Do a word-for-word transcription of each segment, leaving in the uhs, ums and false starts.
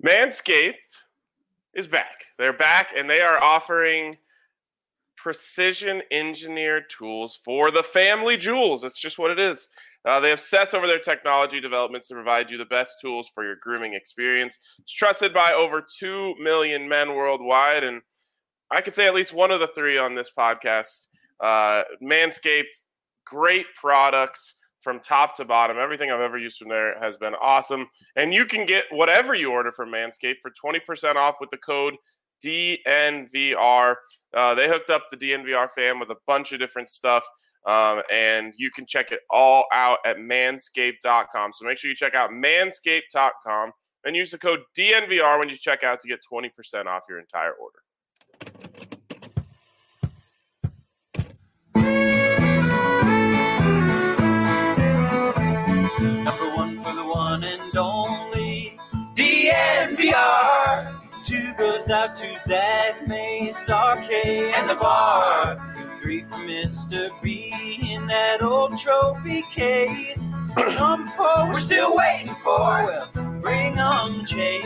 Manscaped is back. They're back, and they are offering precision engineered tools for the family jewels. That's just what it is. Uh, they obsess over their technology developments to provide you the best tools for your grooming experience. It's trusted by over two million men worldwide, and I could say at least one of the three on this podcast. Uh, Manscaped, great products from top to bottom. Everything I've ever used from there has been awesome. And you can get whatever you order from Manscaped for twenty percent off with the code D N V R. Uh, they hooked up the D N V R fam with a bunch of different stuff. Um, and you can check it all out at manscaped dot com. So make sure you check out manscaped dot com and use the code D N V R when you check out to get twenty percent off your entire order. Number one for the one and only D N V R. Two goes out to Zach, Mace, R K, and the bar. Three for Mister B in that old trophy case. Number four, we're still waiting for. Well, bring on the chase.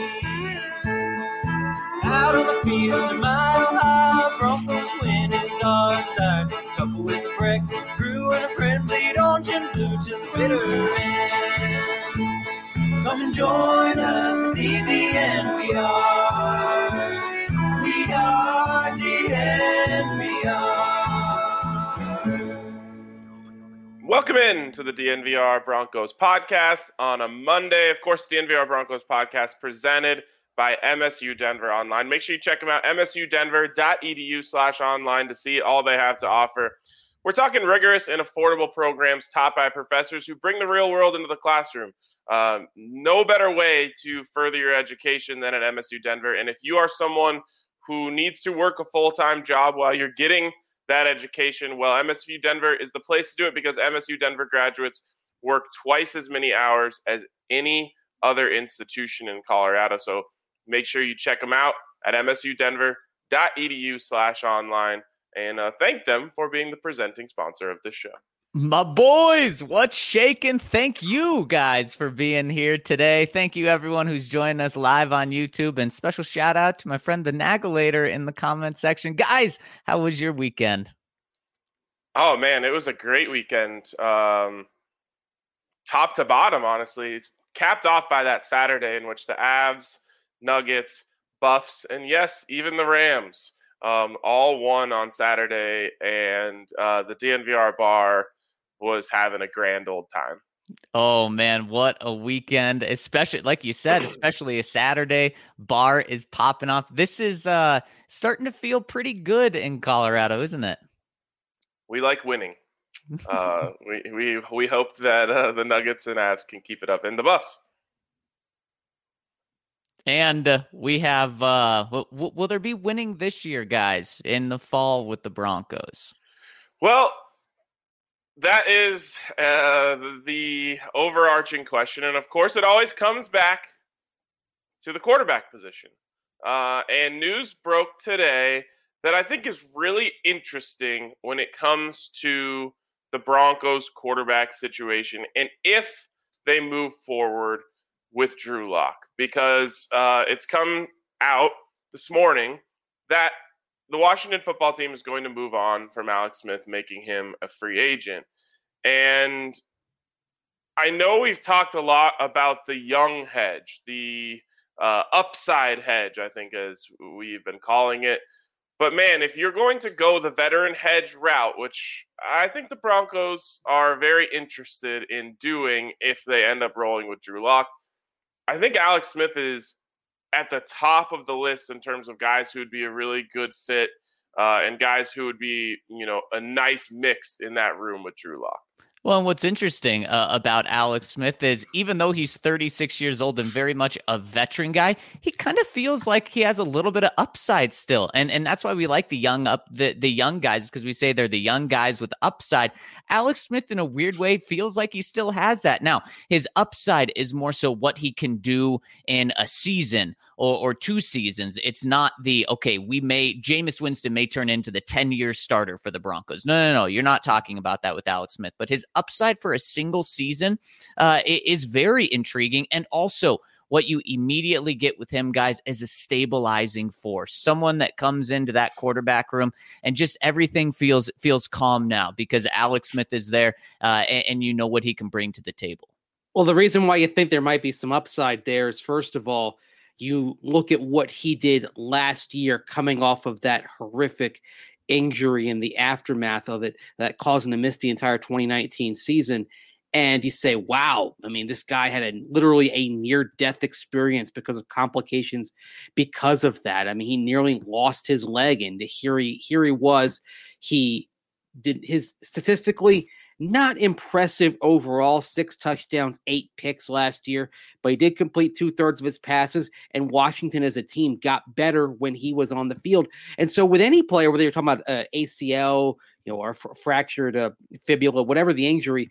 Out on the field, the mile high, Broncos win is our desire. Couple with a breakfast crew and a friend, bleed orange and blue to the bitter end. Come and join us at the D N V R. We are D N V R. Welcome in to the D N V R Broncos podcast on a Monday. Of course, the D N V R Broncos podcast presented by M S U Denver Online. Make sure you check them out, m s u denver dot e d u slash online to see all they have to offer. We're talking rigorous and affordable programs taught by professors who bring the real world into the classroom. Um, no better way to further your education than at M S U Denver. And if you are someone who needs to work a full-time job while you're getting that education, well, M S U Denver is the place to do it because M S U Denver graduates work twice as many hours as any other institution in Colorado. So make sure you check them out at m s u denver dot e d u slash online and uh, thank them for being the presenting sponsor of this show. My boys, what's shaking? Thank you guys for being here today. Thank you everyone who's joining us live on YouTube, and special shout out to my friend the Nagulator in the comment section. Guys, how was your weekend? Oh man, it was a great weekend. Um, top to bottom, honestly. It's capped off by that Saturday in which the Avs, Nuggets, Buffs, and yes, even the Rams um, all won on Saturday, and uh, the D N V R bar was having a grand old time. Oh man, what a weekend, especially like you said, especially a Saturday. Bar is popping off. This is uh, starting to feel pretty good in Colorado, isn't it? We like winning. uh, we, we, we hope that uh, the Nuggets and Avs can keep it up, and the Buffs. And uh, we have, uh, w- w- will there be winning this year, guys, in the fall with the Broncos? Well, that is uh, the overarching question. And of course, it always comes back to the quarterback position. Uh, and news broke today that I think is really interesting when it comes to the Broncos quarterback situation and if they move forward with Drew Lock, because uh, it's come out this morning that the Washington football team is going to move on from Alex Smith, making him a free agent. And I know we've talked a lot about the young hedge, the uh, upside hedge, I think as we've been calling it. But man, if you're going to go the veteran hedge route, which I think the Broncos are very interested in doing if they end up rolling with Drew Lock, I think Alex Smith is at the top of the list in terms of guys who would be a really good fit uh, and guys who would be, you know, a nice mix in that room with Drew Lock. Well, and what's interesting uh, about Alex Smith is even though he's thirty-six years old and very much a veteran guy, he kind of feels like he has a little bit of upside still. And and that's why we like the young up the, the young guys, because we say they're the young guys with upside. Alex Smith, in a weird way, feels like he still has that. Now, his upside is more so what he can do in a season or, or two seasons. It's not the, okay, we may, Jameis Winston may turn into the ten-year starter for the Broncos. No, no, no, you're not talking about that with Alex Smith. But his upside for a single season uh, is very intriguing. And also, what you immediately get with him, guys, is a stabilizing force, someone that comes into that quarterback room and just everything feels feels calm now because Alex Smith is there, uh, and, and you know what he can bring to the table. Well, the reason why you think there might be some upside there is, first of all, you look at what he did last year coming off of that horrific injury and the aftermath of it that caused him to miss the entire twenty nineteen season. And you say, wow, I mean, this guy had a literally a near-death experience because of complications because of that. I mean, he nearly lost his leg, and here he, here he was. He did his statistically not impressive overall, six touchdowns, eight picks last year, but he did complete two-thirds of his passes, and Washington as a team got better when he was on the field. And so with any player, whether you're talking about uh, A C L, you know, or f- fractured uh, fibula, whatever the injury,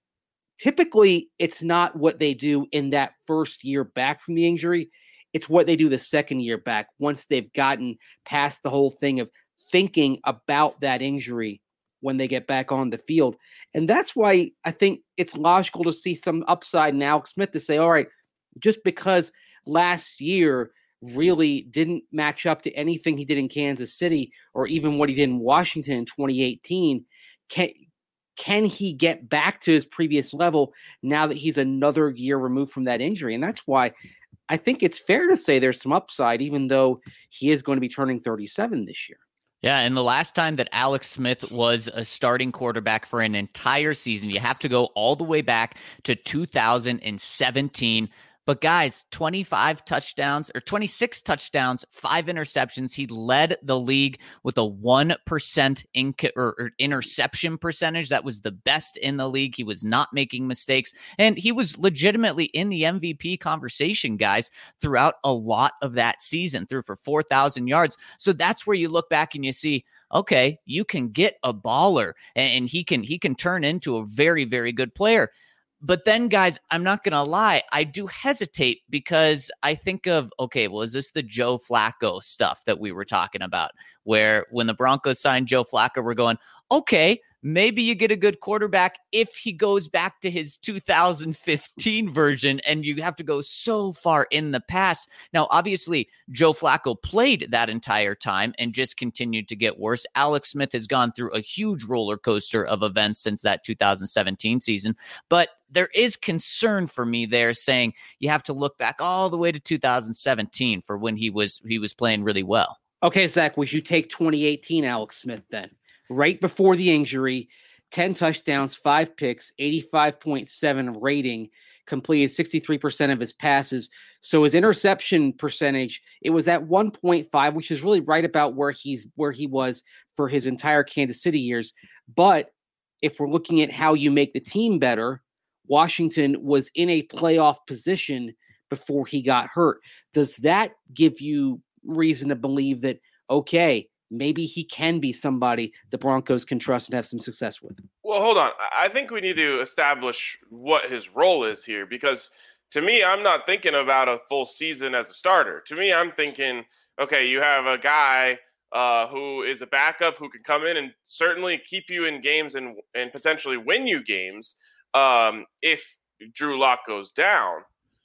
typically it's not what they do in that first year back from the injury. It's what they do the second year back once they've gotten past the whole thing of thinking about that injury when they get back on the field. And that's why I think it's logical to see some upside in Alex Smith to say, all right, just because last year really didn't match up to anything he did in Kansas City or even what he did in Washington in twenty eighteen, can, can he get back to his previous level now that he's another year removed from that injury? And that's why I think it's fair to say there's some upside, even though he is going to be turning thirty-seven this year. Yeah, and the last time that Alex Smith was a starting quarterback for an entire season, you have to go all the way back to two thousand seventeen. But guys, twenty-five touchdowns or twenty-six touchdowns, five interceptions. He led the league with a one percent inc- or, or interception percentage. That was the best in the league. He was not making mistakes. And he was legitimately in the M V P conversation, guys, throughout a lot of that season, threw for four thousand yards. So that's where you look back and you see, okay, you can get a baller and he can he can turn into a very, very good player. But then, guys, I'm not going to lie. I do hesitate because I think of, okay, well, is this the Joe Flacco stuff that we were talking about, where when the Broncos signed Joe Flacco, we're going, okay, maybe you get a good quarterback if he goes back to his two thousand fifteen version, and you have to go so far in the past. Now, obviously, Joe Flacco played that entire time and just continued to get worse. Alex Smith has gone through a huge roller coaster of events since that two thousand seventeen season, but there is concern for me there saying you have to look back all the way to two thousand seventeen for when he was he was playing really well. Okay, Zach, would you take twenty eighteen Alex Smith then? Right before the injury, ten touchdowns, five picks, eighty-five point seven rating, completed sixty-three percent of his passes. So his interception percentage, it was at one point five, which is really right about where he's where he was for his entire Kansas City years. But if we're looking at how you make the team better, Washington was in a playoff position before he got hurt. Does that give you reason to believe that, okay, maybe he can be somebody the Broncos can trust and have some success with? Well, hold on. I think we need to establish what his role is here, because to me, I'm not thinking about a full season as a starter. To me, I'm thinking, okay, you have a guy uh, who is a backup who can come in and certainly keep you in games and, and potentially win you games um, if Drew Lock goes down.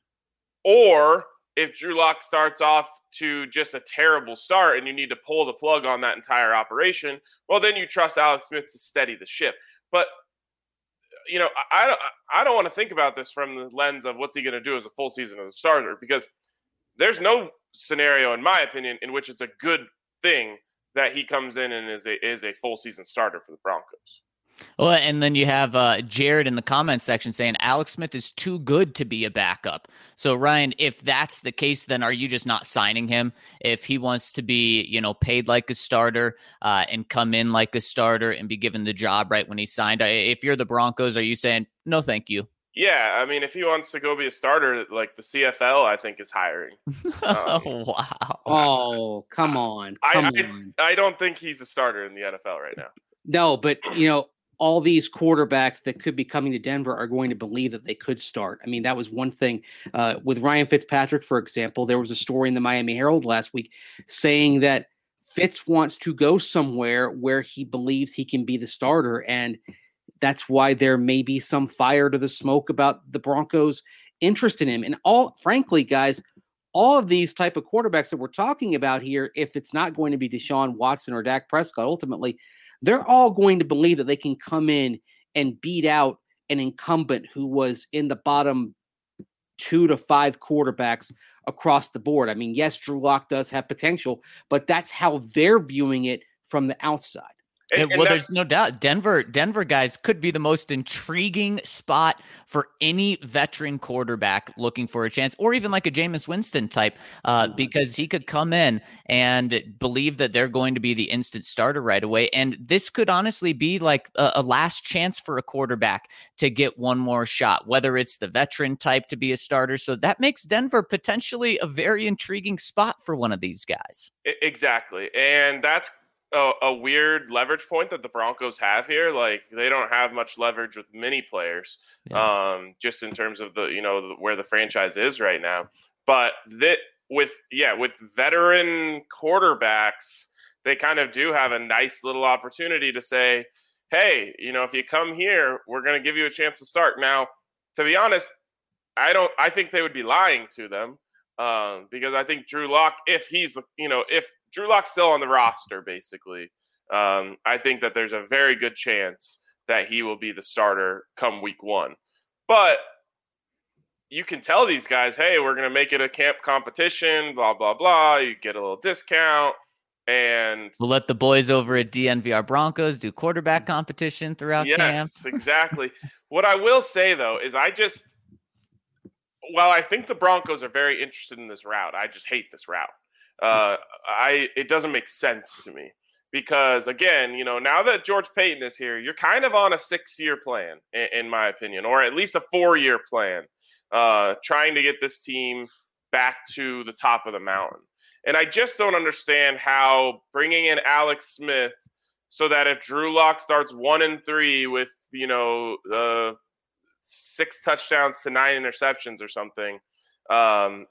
Or if Drew Lock starts off to just a terrible start and you need to pull the plug on that entire operation, well, then you trust Alex Smith to steady the ship. But, you know, I, I don't, I don't want to think about this from the lens of what's he going to do as a full season as a starter, because there's no scenario, in my opinion, in which it's a good thing that he comes in and is a, is a full season starter for the Broncos. Well, and then you have uh, Jared in the comment section saying Alex Smith is too good to be a backup. So, Ryan, if that's the case, then are you just not signing him? If he wants to be, you know, paid like a starter uh, and come in like a starter and be given the job right when he signed, if you're the Broncos, are you saying, no, thank you? Yeah, I mean, if he wants to go be a starter, like the C F L, I think is hiring. Um, oh, wow. Oh, come on. Come I, on. I, I don't think he's a starter in the N F L right now. No, but, you know, all these quarterbacks that could be coming to Denver are going to believe that they could start. I mean, that was one thing uh, with Ryan Fitzpatrick, for example. There was a story in the Miami Herald last week saying that Fitz wants to go somewhere where he believes he can be the starter. And that's why there may be some fire to the smoke about the Broncos interest in him. And all, frankly, guys, all of these type of quarterbacks that we're talking about here, if it's not going to be Deshaun Watson or Dak Prescott, ultimately, they're all going to believe that they can come in and beat out an incumbent who was in the bottom two to five quarterbacks across the board. I mean, yes, Drew Lock does have potential, but that's how they're viewing it from the outside. And, and well, there's no doubt Denver, Denver guys could be the most intriguing spot for any veteran quarterback looking for a chance, or even like a Jameis Winston type, uh, because he could come in and believe that they're going to be the instant starter right away. And this could honestly be like a, a last chance for a quarterback to get one more shot, whether it's the veteran type to be a starter. So that makes Denver potentially a very intriguing spot for one of these guys. Exactly. And that's A, a weird leverage point that the Broncos have here. Like, they don't have much leverage with many players, yeah. um, just in terms of the, you know, where the franchise is right now. But that with, yeah, with veteran quarterbacks, they kind of do have a nice little opportunity to say, hey, you know, if you come here, we're going to give you a chance to start. Now, to be honest, I don't, I think they would be lying to them. Um, because I think Drew Lock, if he's, you know, if Drew Lock's still on the roster, basically, um, I think that there's a very good chance that he will be the starter come week one. But you can tell these guys, hey, we're going to make it a camp competition, blah, blah, blah. You get a little discount. And we'll let the boys over at D N V R Broncos do quarterback competition throughout yes, camp. Yes, exactly. What I will say, though, is I just, Well, I think the Broncos are very interested in this route. I just hate this route. Uh, I it doesn't make sense to me because, again, you know, now that George Paton is here, you're kind of on a six-year plan, in, in my opinion, or at least a four-year plan, uh, trying to get this team back to the top of the mountain. And I just don't understand how bringing in Alex Smith so that if Drew Lock starts one and three with, you know, uh, six touchdowns to nine interceptions or something, um,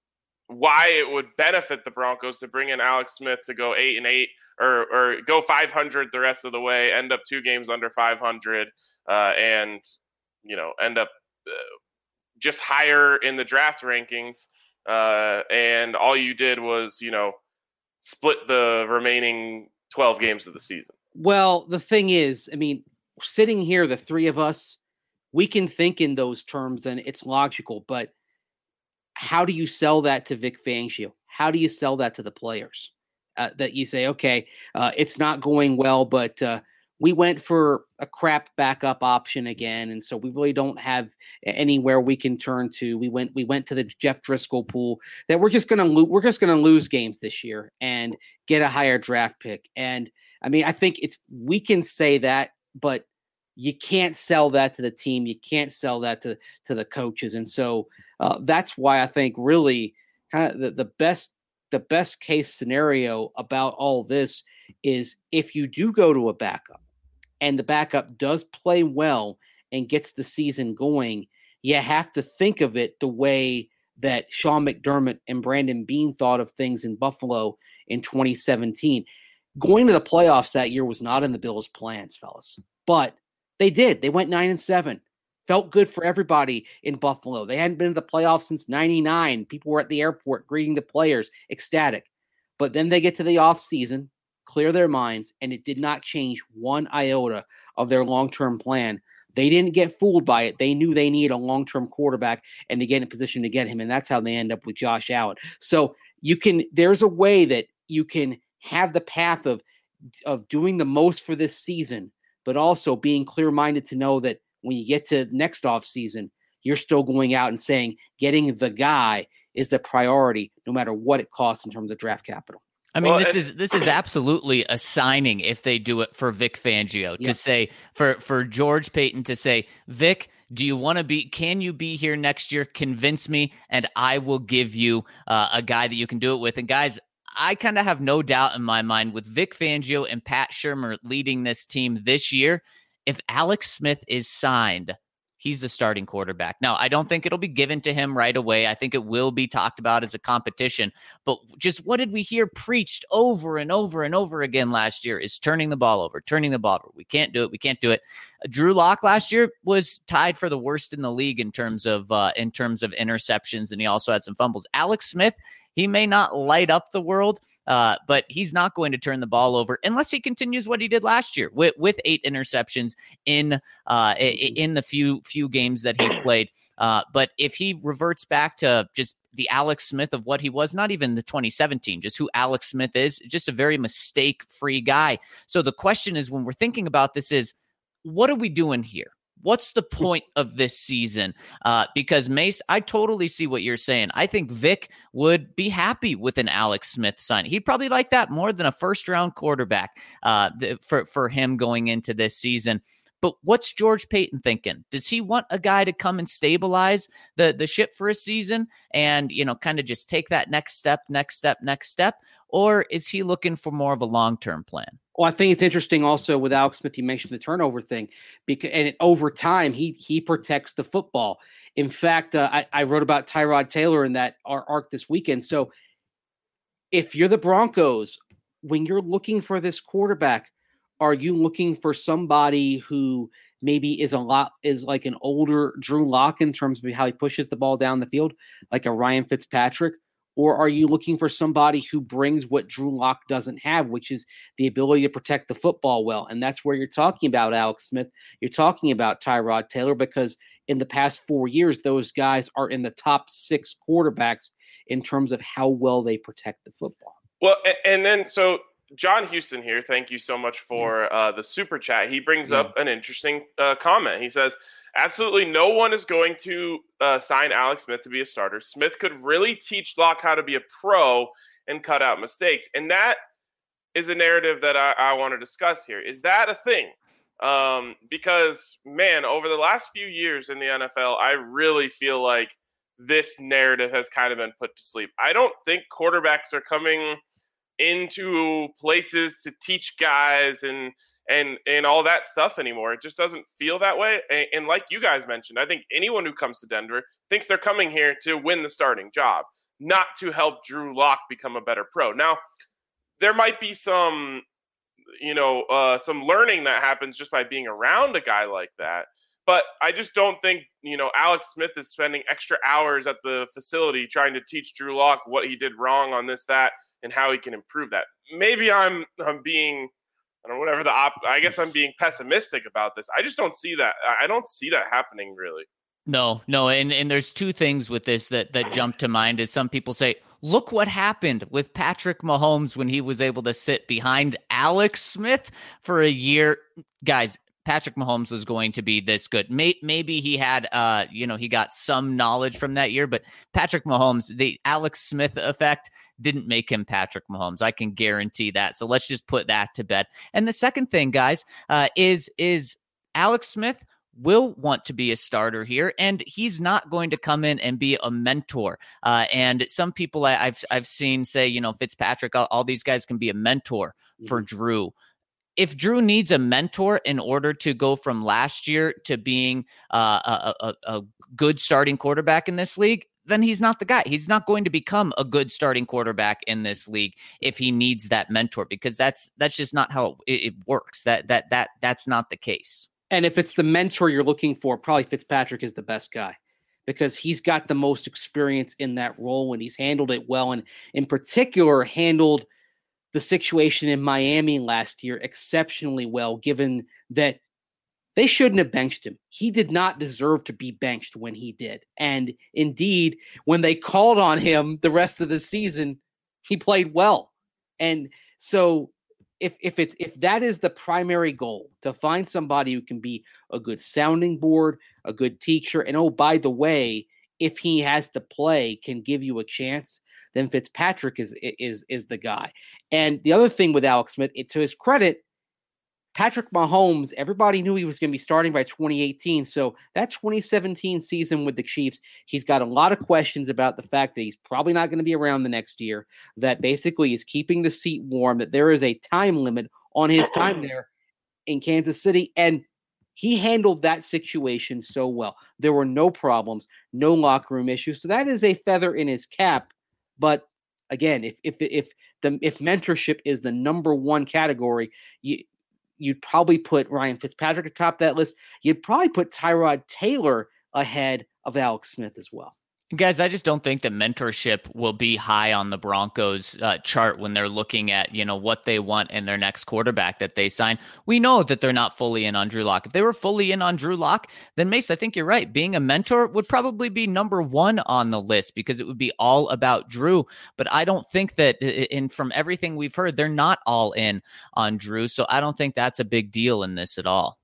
why it would benefit the Broncos to bring in Alex Smith to go eight and eight or, or go five hundred the rest of the way, end up two games under five hundred, uh, and, you know, end up uh, just higher in the draft rankings. Uh, and all you did was, you know, split the remaining twelve games of the season. Well, the thing is, I mean, sitting here, the three of us, we can think in those terms and it's logical, but how do you sell that to Vic Fangio? How do you sell that to the players? Uh, that you say, okay, uh, it's not going well, but uh, we went for a crap backup option again, and so we really don't have anywhere we can turn to. We went, we went to the Jeff Driscoll pool that we're just going to lo- we're just going to lose games this year and get a higher draft pick. And I mean, I think it's we can say that, but you can't sell that to the team. You can't sell that to, to the coaches. And so uh, that's why I think really kind of the, the best the best case scenario about all this is if you do go to a backup and the backup does play well and gets the season going, you have to think of it the way that Sean McDermott and Brandon Beane thought of things in Buffalo in twenty seventeen. Going to the playoffs that year was not in the Bills' plans, fellas, but they did. They went nine and seven. Felt good for everybody in Buffalo. They hadn't been to the playoffs since ninety-nine. People were at the airport greeting the players, ecstatic. But then they get to the offseason, clear their minds, and it did not change one iota of their long-term plan. They didn't get fooled by it. They knew they needed a long-term quarterback and to get in a position to get him, and that's how they end up with Josh Allen. So you can. There's a way that you can have the path of of doing the most for this season, but also being clear-minded to know that when you get to next offseason, you're still going out and saying getting the guy is the priority, no matter what it costs in terms of draft capital. I mean, well, this is this is absolutely a signing if they do it for Vic Fangio yeah. to say for for George Paton to say, Vic, do you want to be? Can you be here next year? Convince me, and I will give you uh, a guy that you can do it with. And guys, I kind of have no doubt in my mind with Vic Fangio and Pat Shurmur leading this team this year. If Alex Smith is signed, he's the starting quarterback. Now, I don't think it'll be given to him right away. I think it will be talked about as a competition. But just what did we hear preached over and over and over again last year is turning the ball over, turning the ball over. We can't do it. We can't do it. Drew Lock last year was tied for the worst in the league in terms of uh, in terms of interceptions, and he also had some fumbles. Alex Smith, he may not light up the world, uh, but he's not going to turn the ball over unless he continues what he did last year with, with eight interceptions in uh, in the few few games that he played. Uh, but if he reverts back to just the Alex Smith of what he was, not even the twenty seventeen, just who Alex Smith is, just a very mistake-free guy. So the question is, when we're thinking about this is, what are we doing here? What's the point of this season? Uh, because Mace, I totally see what you're saying. I think Vic would be happy with an Alex Smith sign. He'd probably like that more than a first round quarterback uh, th- for, for him going into this season. But what's George Paton thinking? Does he want a guy to come and stabilize the, the ship for a season and, you know, kind of just take that next step, next step, next step? Or is he looking for more of a long-term plan? Well, I think it's interesting also with Alex Smith, you mentioned the turnover thing, because and over time, he he protects the football. In fact, uh, I, I wrote about Tyrod Taylor in that arc this weekend. So if you're the Broncos, when you're looking for this quarterback, are you looking for somebody who maybe is a lot is like an older Drew Lock in terms of how he pushes the ball down the field, like a Ryan Fitzpatrick? Or are you looking for somebody who brings what Drew Lock doesn't have, which is the ability to protect the football well? And that's where you're talking about Alex Smith. You're talking about Tyrod Taylor, because in the past four years, those guys are in the top six quarterbacks in terms of how well they protect the football. Well, and then so John Houston here, thank you so much for uh, the super chat. He brings yeah. up an interesting uh, comment. He says, absolutely no one is going to uh, sign Alex Smith to be a starter. Smith could really teach Locke how to be a pro and cut out mistakes. And that is a narrative that I, I want to discuss here. Is that a thing? Um, because, man, over the last few years in the N F L, I really feel like this narrative has kind of been put to sleep. I don't think quarterbacks are coming into places to teach guys and and and all that stuff anymore. It just doesn't feel that way. And, and like you guys mentioned, I think anyone who comes to Denver thinks they're coming here to win the starting job, not to help Drew Lock become a better pro. Now, there might be some, you know, uh, some learning that happens just by being around a guy like that. But I just don't think, you know, Alex Smith is spending extra hours at the facility trying to teach Drew Lock what he did wrong on this, that, and how he can improve that. Maybe I'm I'm being, I don't know, whatever the op. I guess I'm being pessimistic about this. I just don't see that. I don't see that happening really. No, no, and and there's two things with this that that jump to mind. Is some people say, look what happened with Patrick Mahomes when he was able to sit behind Alex Smith for a year. Guys, Patrick Mahomes was going to be this good. Maybe he had, uh, you know, he got some knowledge from that year, but Patrick Mahomes, the Alex Smith effect didn't make him Patrick Mahomes. I can guarantee that. So let's just put that to bed. And the second thing, guys, uh, is, is Alex Smith will want to be a starter here, and he's not going to come in and be a mentor. Uh, and some people I, I've, I've seen say, you know, Fitzpatrick, all, all these guys can be a mentor for mm-hmm. Drew. If Drew needs a mentor in order to go from last year to being uh, a, a, a good starting quarterback in this league, then he's not the guy. He's not going to become a good starting quarterback in this league if he needs that mentor, because that's that's just not how it, it works. That that that that's not the case. And if it's the mentor you're looking for, probably Fitzpatrick is the best guy, because he's got the most experience in that role and he's handled it well, and in particular handled the situation in Miami last year exceptionally well, given that they shouldn't have benched him. He did not deserve to be benched when he did. And indeed, when they called on him the rest of the season, he played well. And so if if it's if that is the primary goal, to find somebody who can be a good sounding board, a good teacher, and oh, by the way, if he has to play, can give you a chance, then Fitzpatrick is is is the guy. And the other thing with Alex Smith, it, to his credit, Patrick Mahomes, everybody knew he was going to be starting by twenty eighteen. So that twenty seventeen season with the Chiefs, he's got a lot of questions about the fact that he's probably not going to be around the next year, that basically is keeping the seat warm, that there is a time limit on his time there in Kansas City. And He handled that situation so well. There were no problems, no locker room issues. So that is a feather in his cap. But again, if if if the if mentorship is the number one category, you you'd probably put Ryan Fitzpatrick atop that list. You'd probably put Tyrod Taylor ahead of Alex Smith as well. Guys, I just don't think that mentorship will be high on the Broncos uh, chart when they're looking at, you know, what they want in their next quarterback that they sign. We know that they're not fully in on Drew Lock. If they were fully in on Drew Lock, then Mace, I think you're right. Being a mentor would probably be number one on the list because it would be all about Drew. But I don't think that, and from everything we've heard, they're not all in on Drew. So I don't think that's a big deal in this at all.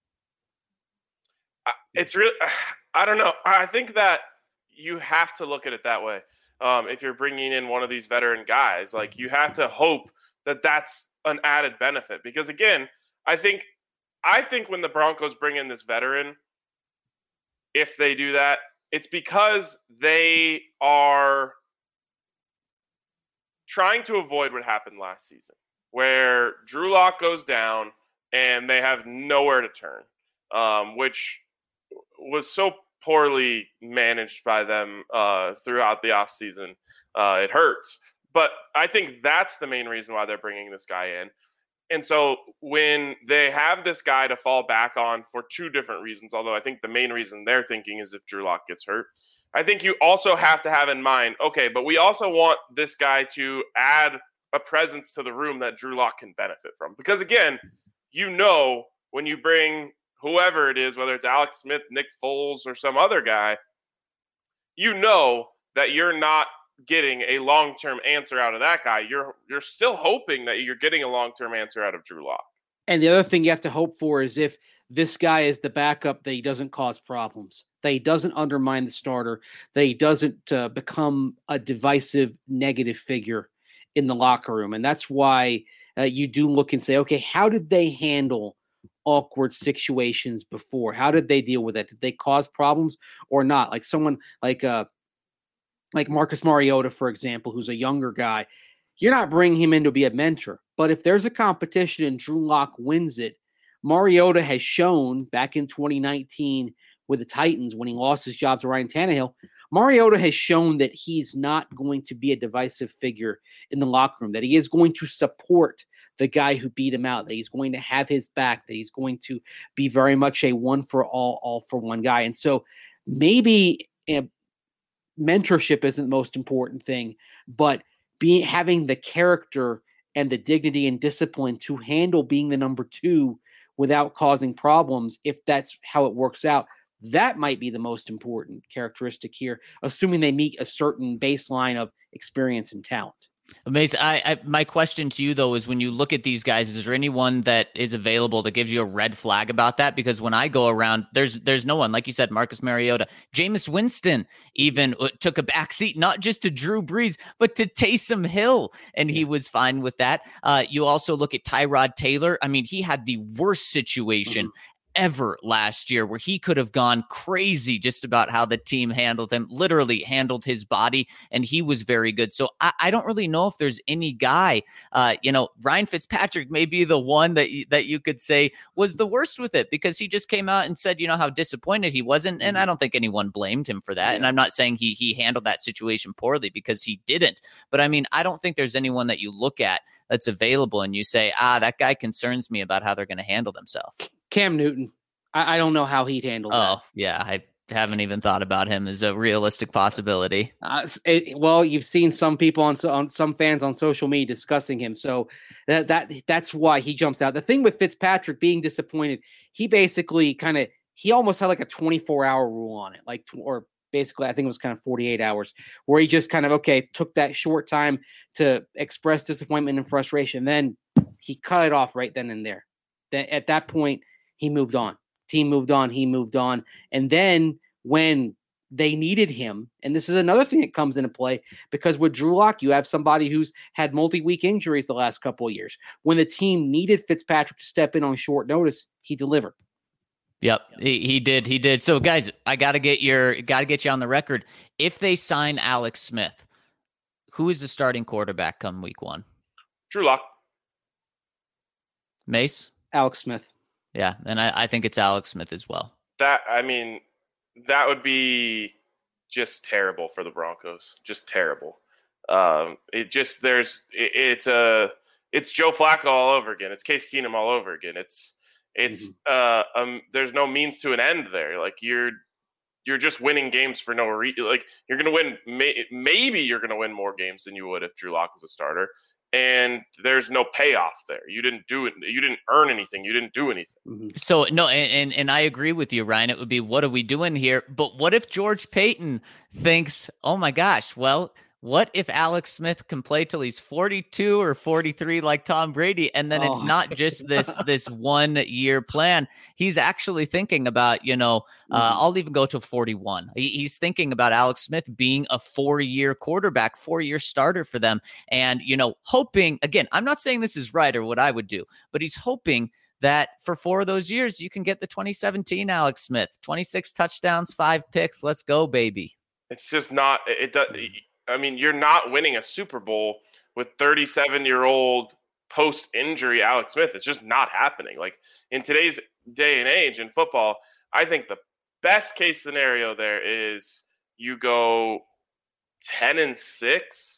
It's really, I don't know. I think that you have to look at it that way. Um, if you're bringing in one of these veteran guys, like you have to hope that that's an added benefit. Because again, I think, I think when the Broncos bring in this veteran, if they do that, it's because they are trying to avoid what happened last season, where Drew Lock goes down and they have nowhere to turn, um, which was so poorly managed by them uh, throughout the offseason. Uh, it hurts. But I think that's the main reason why they're bringing this guy in. And so when they have this guy to fall back on for two different reasons, although I think the main reason they're thinking is if Drew Lock gets hurt, I think you also have to have in mind, okay, but we also want this guy to add a presence to the room that Drew Lock can benefit from. Because again, you know, when you bring whoever it is, whether it's Alex Smith, Nick Foles, or some other guy, you know that you're not getting a long-term answer out of that guy. You're you're still hoping that you're getting a long-term answer out of Drew Lock. And the other thing you have to hope for is if this guy is the backup, that he doesn't cause problems, that he doesn't undermine the starter, that he doesn't uh, become a divisive negative figure in the locker room. And that's why uh, you do look and say, okay, how did they handle awkward situations before? How did they deal with it? Did they cause problems or not? Like someone like uh like Marcus Mariota, for example, who's a younger guy, you're not bringing him in to be a mentor. But if there's a competition and Drew Lock wins it, Mariota has shown back in twenty nineteen with the Titans when he lost his job to Ryan Tannehill, Mariota has shown that he's not going to be a divisive figure in the locker room, that he is going to support the guy who beat him out, that he's going to have his back, that he's going to be very much a one for all, all for one guy. And so maybe uh, mentorship isn't the most important thing, but being having the character and the dignity and discipline to handle being the number two without causing problems, if that's how it works out, that might be the most important characteristic here, assuming they meet a certain baseline of experience and talent. Amazing. I, I, my question to you, though, is when you look at these guys, is there anyone that is available that gives you a red flag about that? Because when I go around, there's there's no one. Like you said, Marcus Mariota, Jameis Winston even took a backseat, not just to Drew Brees, but to Taysom Hill, and he was fine with that. Uh, you also look at Tyrod Taylor. I mean, he had the worst situation mm-hmm. ever last year, where he could have gone crazy just about how the team handled him, literally handled his body, and he was very good. So I, I don't really know if there's any guy, uh, you know, Ryan Fitzpatrick may be the one that you, that you could say was the worst with it, because he just came out and said, you know, how disappointed he wasn't. And I don't think anyone blamed him for that. Yeah. And I'm not saying he, he handled that situation poorly, because he didn't. But I mean, I don't think there's anyone that you look at that's available and you say, ah, that guy concerns me about how they're going to handle themselves. Cam Newton. I, I don't know how he'd handle oh, that. Oh, yeah. I haven't even thought about him as a realistic possibility. Uh, it, well, you've seen some people on, on some fans on social media discussing him. So that, that that's why he jumps out. The thing with Fitzpatrick being disappointed, he basically kind of, he almost had like a twenty-four hour rule on it. Like, or basically, I think it was kind of forty-eight hours, where he just kind of, okay, took that short time to express disappointment and frustration. Then he cut it off right then and there. That at that point, he moved on. Team moved on. He moved on. And then when they needed him, and this is another thing that comes into play, because with Drew Lock, you have somebody who's had multi-week injuries the last couple of years. When the team needed Fitzpatrick to step in on short notice, he delivered. Yep, he, he did. He did. So, guys, I got to get your got to get you on the record. If they sign Alex Smith, who is the starting quarterback come week one? Drew Lock. Mace? Alex Smith. Yeah, and I, I think it's Alex Smith as well. That I mean, that would be just terrible for the Broncos. Just terrible. Um, it just there's it, it's a it's Joe Flacco all over again. It's Case Keenum all over again. It's it's mm-hmm. uh um there's no means to an end there. Like you're you're just winning games for no reason. Like you're gonna win. May- maybe you're gonna win more games than you would if Drew Lock was a starter. And there's no payoff there. You didn't do it. You didn't earn anything. You didn't do anything. Mm-hmm. So no, and, and and I agree with you, Ryan. It would be, what are we doing here? But what if George Paton thinks, oh my gosh, well, what if Alex Smith can play till he's forty-two or forty-three like Tom Brady? And then oh. it's not just this this one year plan. He's actually thinking about, you know, uh, mm-hmm. I'll even go to forty-one. He, he's thinking about Alex Smith being a four year quarterback, four year starter for them. And, you know, hoping, again, I'm not saying this is right or what I would do, but he's hoping that for four of those years, you can get the twenty seventeen Alex Smith, twenty-six touchdowns, five picks. Let's go, baby. It's just not, it does. I mean, you're not winning a Super Bowl with thirty-seven-year-old post-injury Alex Smith. It's just not happening. Like, in today's day and age in football, I think the best case scenario there is you go ten and six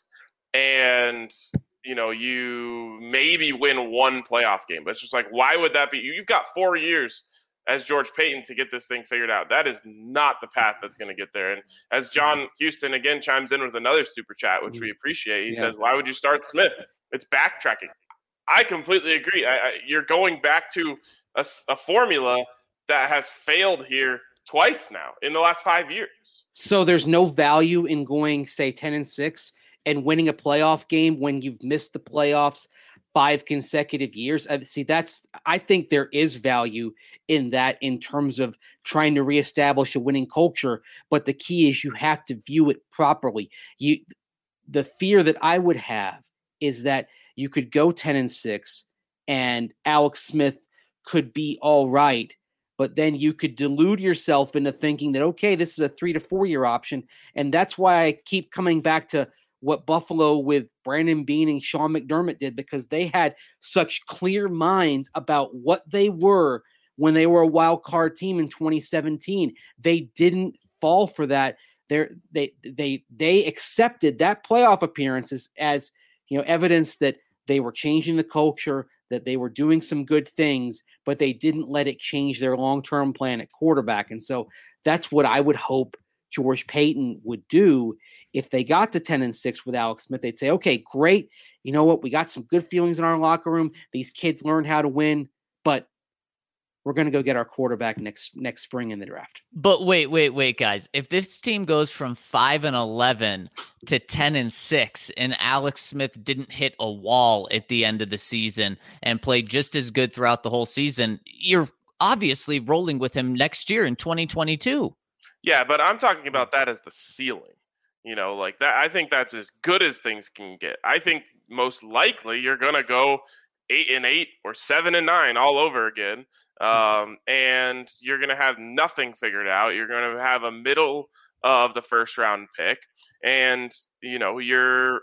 and, you know, you maybe win one playoff game. But it's just like, why would that be? You've got four years as George Paton to get this thing figured out. That is not the path that's going to get there. And as John Houston again chimes in with another super chat, which we appreciate, he yeah. says, why would you start Smith? It's backtracking. I completely agree. I, I, you're going back to a, a formula that has failed here twice now in the last five years. So there's no value in going, say, ten and six and winning a playoff game when you've missed the playoffs five consecutive years. I see, that's, I think there is value in that in terms of trying to reestablish a winning culture. But the key is you have to view it properly. You, the fear that I would have is that you could go ten and six and Alex Smith could be all right, but then you could delude yourself into thinking that, okay, this is a three to four year option. And that's why I keep coming back to what Buffalo with Brandon Beane and Sean McDermott did, because they had such clear minds about what they were when they were a wild card team in twenty seventeen. They didn't fall for that. They're, they they they accepted that playoff appearances as, you know, evidence that they were changing the culture, that they were doing some good things, but they didn't let it change their long-term plan at quarterback. And so that's what I would hope George Paton would do. If they got to ten and six with Alex Smith, they'd say, okay, great. You know what? We got some good feelings in our locker room. These kids learned how to win, but we're going to go get our quarterback next next spring in the draft. But wait, wait, wait, guys. If this team goes from five and eleven to ten and six, and Alex Smith didn't hit a wall at the end of the season and played just as good throughout the whole season, you're obviously rolling with him next year in twenty twenty-two. Yeah, but I'm talking about that as the ceiling. You know, like that. I think that's as good as things can get. I think most likely you're going to go eight and eight or seven and nine all over again. Um, and you're going to have nothing figured out. You're going to have a middle of the first round pick, and you know you're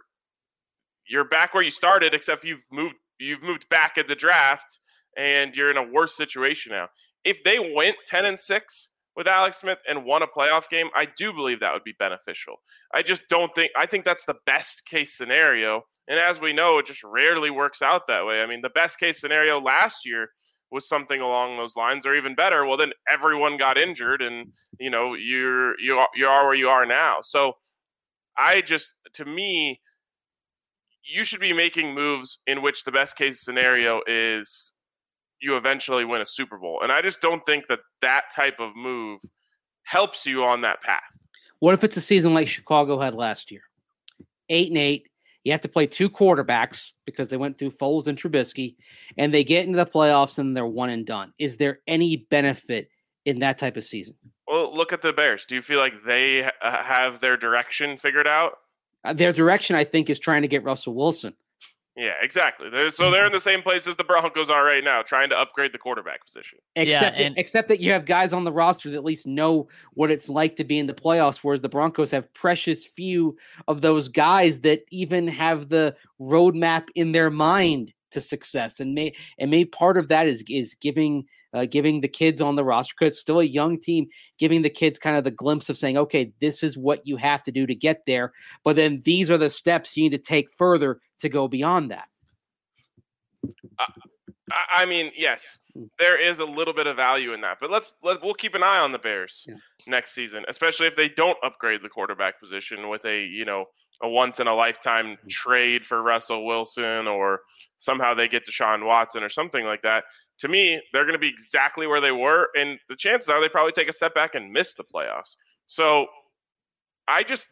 you're back where you started, except you've moved you've moved back in the draft, and you're in a worse situation now. If they went ten and six with Alex Smith and won a playoff game, I do believe that would be beneficial. I just don't think – I think that's the best case scenario. And as we know, it just rarely works out that way. I mean, the best case scenario last year was something along those lines, or even better. Well, then everyone got injured and, you know, you're, you are, you are where you are now. So I just – to me, you should be making moves in which the best case scenario is – you eventually win a Super Bowl. And I just don't think that that type of move helps you on that path. What if it's a season like Chicago had last year? Eight and eight. You have to play two quarterbacks because they went through Foles and Trubisky, and they get into the playoffs and they're one and done. Is there any benefit in that type of season? Well, look at the Bears. Do you feel like they uh, have their direction figured out? Uh, their direction, I think, is trying to get Russell Wilson. Yeah, exactly. So they're in the same place as the Broncos are right now, trying to upgrade the quarterback position. Except, yeah, and- that, except that you have guys on the roster that at least know what it's like to be in the playoffs, whereas the Broncos have precious few of those guys that even have the roadmap in their mind to success. And may and maybe part of that is is giving uh, giving the kids on the roster, because it's still a young team, giving the kids kind of the glimpse of saying, okay, this is what you have to do to get there. But then these are the steps you need to take further to go beyond that. Uh, I mean, yes, there is a little bit of value in that, but let's let we'll keep an eye on the Bears yeah. next season, especially if they don't upgrade the quarterback position with a, you know, a once in a lifetime mm-hmm. trade for Russell Wilson, or somehow they get Deshaun Watson or something like that. To me, they're going to be exactly where they were, and the chances are they probably take a step back and miss the playoffs. So I just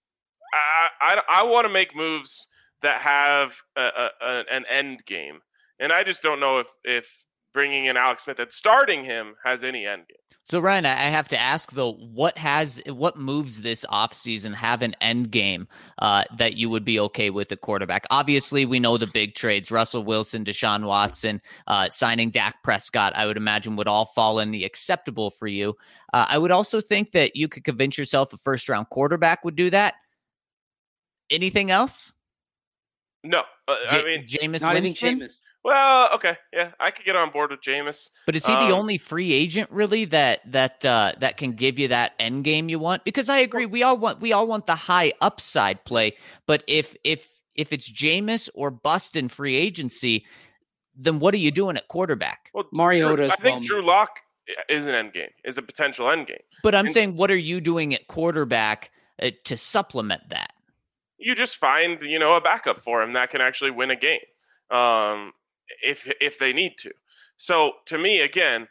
I I, I want to make moves that have a, a, an end game. And I just don't know if, if bringing in Alex Smith and starting him has any end game. So, Ryan, I have to ask, though, what has what moves this offseason have an end game uh, that you would be okay with the quarterback? Obviously, we know the big trades, Russell Wilson, Deshaun Watson, uh, signing Dak Prescott, I would imagine would all fall in the acceptable for you. Uh, I would also think that you could convince yourself a first-round quarterback would do that. Anything else? No. Uh, J- I mean, Jameis not Winston? even Jameis. Well, okay, yeah, I could get on board with Jameis. But is he um, the only free agent really that that uh, that can give you that end game you want? Because I agree, we all want we all want the high upside play. But if if if it's Jameis or bust in free agency, then what are you doing at quarterback? Well, Mariota. I think Drew Lock is an end game, is a potential end game. But I'm and saying, what are you doing at quarterback uh, to supplement that? You just find, you know, a backup for him that can actually win a game. Um, if if they need to. So to me, again,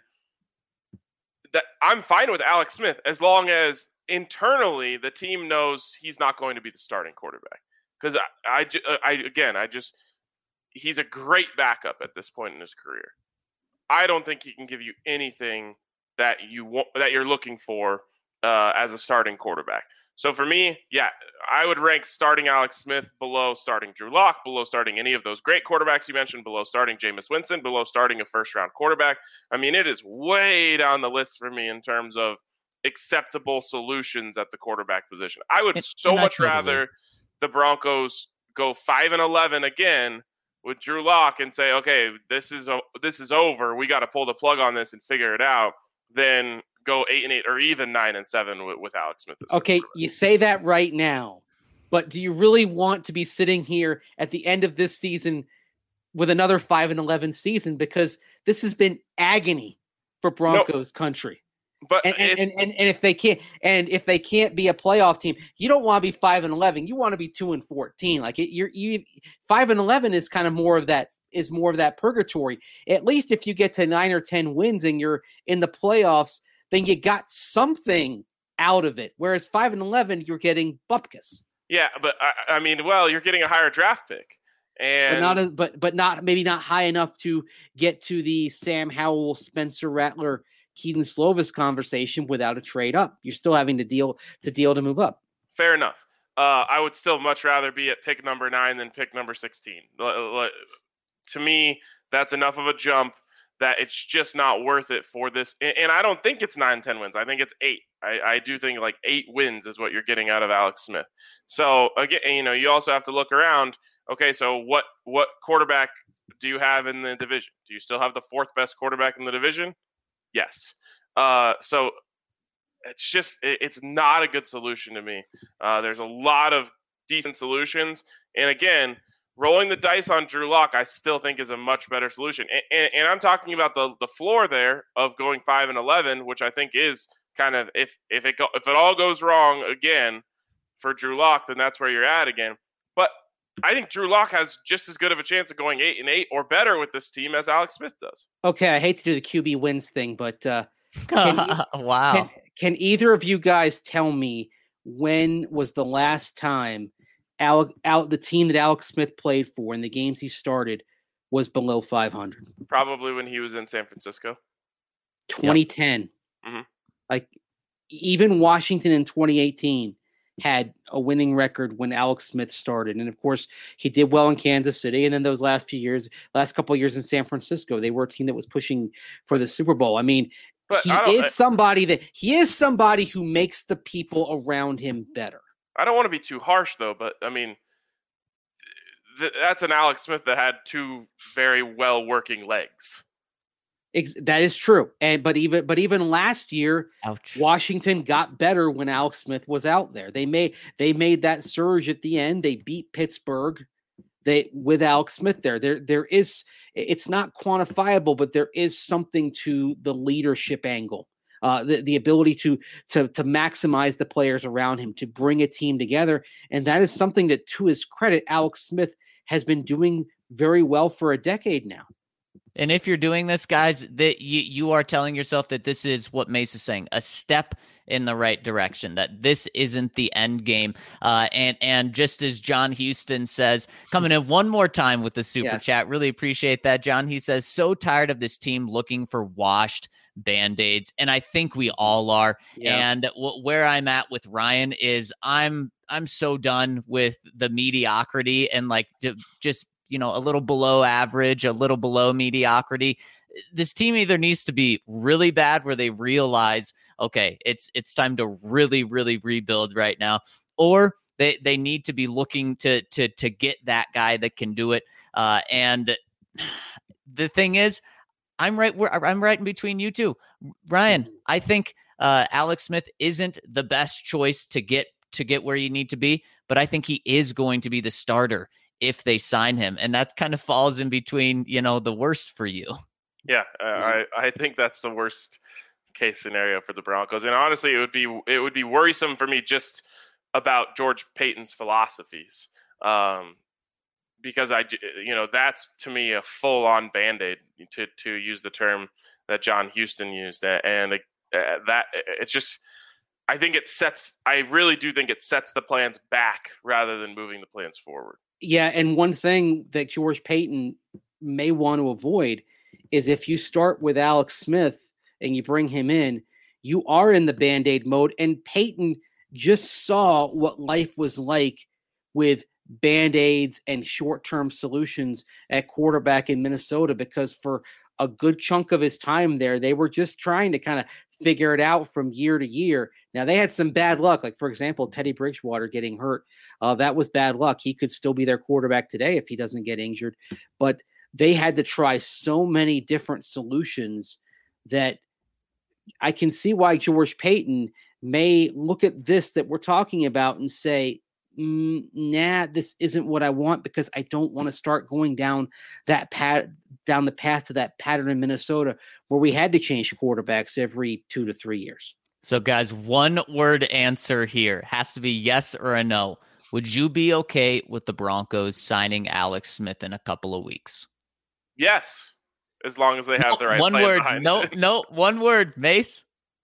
that I'm fine with Alex Smith as long as internally the team knows he's not going to be the starting quarterback. Because I, I, I, again, I just, he's a great backup at this point in his career. I don't think he can give you anything that you want, that you're looking for uh, as a starting quarterback. So for me, yeah, I would rank starting Alex Smith below starting Drew Lock, below starting any of those great quarterbacks you mentioned, below starting Jameis Winston, below starting a first-round quarterback. I mean, it is way down the list for me in terms of acceptable solutions at the quarterback position. I would it's so much totally. rather the Broncos go five and eleven again with Drew Lock and say, okay, this is this is over. We got to pull the plug on this and figure it out. Than go eight and eight or even nine and seven with, with Alex Smith. Okay, you say that right now, but do you really want to be sitting here at the end of this season with another five and eleven season? Because this has been agony for Broncos no, country. But and and, it, and and and if they can't and if they can't be a playoff team, you don't want to be five and eleven. You want to be two and fourteen. Like it, you're you five and eleven is kind of more of that. is more of that purgatory. At least if you get to nine or ten wins and you're in the playoffs, then you got something out of it. Whereas five and eleven, you're getting bupkis. Yeah, but I, I mean, well, you're getting a higher draft pick, and but not as, but but not maybe not high enough to get to the Sam Howell, Spencer Rattler, Keaton Slovis conversation without a trade up. You're still having to deal to deal to move up. Fair enough. Uh, I would still much rather be at pick number nine than pick number sixteen. To me, that's enough of a jump that it's just not worth it for this. And I don't think it's nine, ten wins. I think it's eight. I, I do think like eight wins is what you're getting out of Alex Smith. So again, you know, you also have to look around. Okay, so what what quarterback do you have in the division? Do you still have the fourth best quarterback in the division? Yes. Uh, so it's just it, it's not a good solution to me. Uh, there's a lot of decent solutions, and again, rolling the dice on Drew Lock, I still think is a much better solution. And, and, and I'm talking about the the floor there of going five and eleven, which I think is kind of if if it go, if it all goes wrong again for Drew Lock, then that's where you're at again. But I think Drew Lock has just as good of a chance of going eight and eight or better with this team as Alex Smith does. Okay, I hate to do the Q B wins thing, but uh, can you, wow, can, can either of you guys tell me when was the last time Alec, out the team that Alex Smith played for in the games he started was below five hundred? Probably when he was in San Francisco. twenty ten. Yep. Mm-hmm. Like even Washington in twenty eighteen had a winning record when Alex Smith started. And of course he did well in Kansas City. And then those last few years, last couple of years in San Francisco, they were a team that was pushing for the Super Bowl. I mean, but he I is somebody that he is somebody who makes the people around him better. I don't want to be too harsh, though, but, I mean, th- that's an Alex Smith that had two very well-working legs. Ex- that is true. And but even but even last year, Ouch. Washington got better when Alex Smith was out there. They made they made that surge at the end. They beat Pittsburgh. They with Alex Smith there. There there is it's not quantifiable, but there is something to the leadership angle. Uh, the, the ability to to to maximize the players around him, to bring a team together. And that is something that, to his credit, Alex Smith has been doing very well for a decade now. And if you're doing this, guys, that you, you are telling yourself that this is what Mace is saying, a step in the right direction, that this isn't the end game. Uh, and, and just as John Houston says, coming in one more time with the super Yes. chat, really appreciate that, John. He says, so tired of this team looking for washed Band-Aids. And I think we all are. Yeah. And w- where I'm at with Ryan is I'm, I'm so done with the mediocrity and like d- just, you know, a little below average, a little below mediocrity. This team either needs to be really bad where they realize, okay, it's it's time to really, really rebuild right now, or they they need to be looking to to to get that guy that can do it. Uh, and the thing is, I'm right where I'm right in between you two, Ryan. I think uh, Alex Smith isn't the best choice to get to get where you need to be, but I think he is going to be the starter if they sign him. And that kind of falls in between, you know, the worst for you. Yeah, uh, I, I think that's the worst case scenario for the Broncos. And honestly, it would be it would be worrisome for me just about George Paton's philosophies. Um, because I, you know, that's to me a full on Band-Aid, to, to use the term that John Houston used. And uh, that it's just, I think it sets, I really do think it sets the plans back rather than moving the plans forward. Yeah, and one thing that George Paton may want to avoid is if you start with Alex Smith and you bring him in, you are in the Band-Aid mode. And Paton just saw what life was like with Band-Aids and short-term solutions at quarterback in Minnesota, because for a good chunk of his time there, they were just trying to kind of figure it out from year to year. Now, they had some bad luck. Like, for example, Teddy Bridgewater getting hurt. Uh, that was bad luck. He could still be their quarterback today if he doesn't get injured. But they had to try so many different solutions that I can see why George Paton may look at this that we're talking about and say, mm, nah, this isn't what I want, because I don't want to start going down that path, down the path to that pattern in Minnesota where we had to change quarterbacks every two to three years. So, guys, one word answer here has to be yes or a no. Would you be okay with the Broncos signing Alex Smith in a couple of weeks? Yes, as long as they have no, the right one plan word. behind No, it. no, one word, Mace.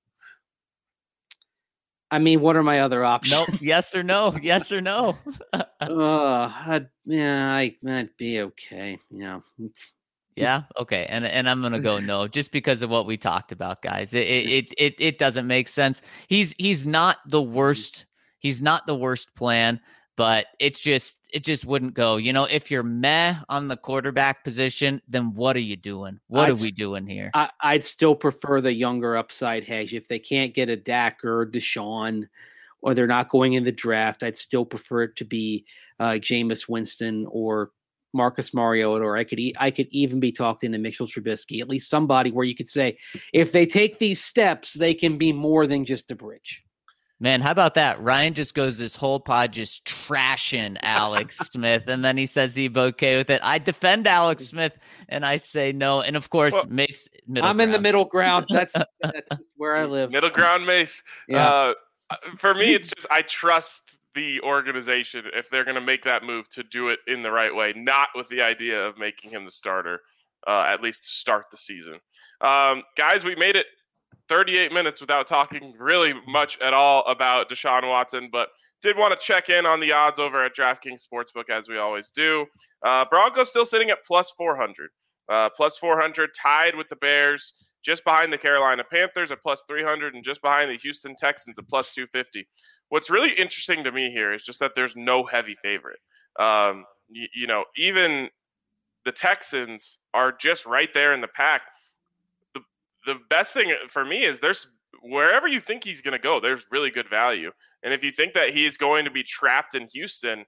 I mean, what are my other options? No, yes or no, yes or no. uh, I'd, yeah, I, I'd be okay. Yeah. Yeah. Okay. And and I'm gonna go no, just because of what we talked about, guys. It it it it doesn't make sense. He's he's not the worst. He's not the worst plan, but it's just it just wouldn't go. You know, if you're meh on the quarterback position, then what are you doing? What I'd, are we doing here? I, I'd still prefer the younger upside hedge. If they can't get a Dak or Deshaun, or they're not going in the draft, I'd still prefer it to be uh, Jameis Winston or Marcus Mariota, or I could e- I could even be talked into Mitchell Trubisky, at least somebody where you could say, if they take these steps, they can be more than just a bridge. Man, how about that? Ryan just goes this whole pod just trashing Alex Smith, and then he says he'd be okay with it. I defend Alex Smith, and I say no. And of course, well, Mace. Middle I'm ground. in the middle ground. That's that's where I live. Middle ground, Mace. Yeah. Uh, for me, it's just I trust the organization if they're going to make that move to do it in the right way, not with the idea of making him the starter, uh, at least to start the season. Um, guys, we made it thirty-eight minutes without talking really much at all about Deshaun Watson, but did want to check in on the odds over at DraftKings Sportsbook, as we always do. Uh, Broncos still sitting at plus four hundred. Uh, plus four hundred, tied with the Bears, just behind the Carolina Panthers at plus three hundred, and just behind the Houston Texans at plus two fifty. What's really interesting to me here is just that there's no heavy favorite. Um, you, you know, even the Texans are just right there in the pack. The the best thing for me is there's wherever you think he's going to go, there's really good value. And if you think that he's going to be trapped in Houston,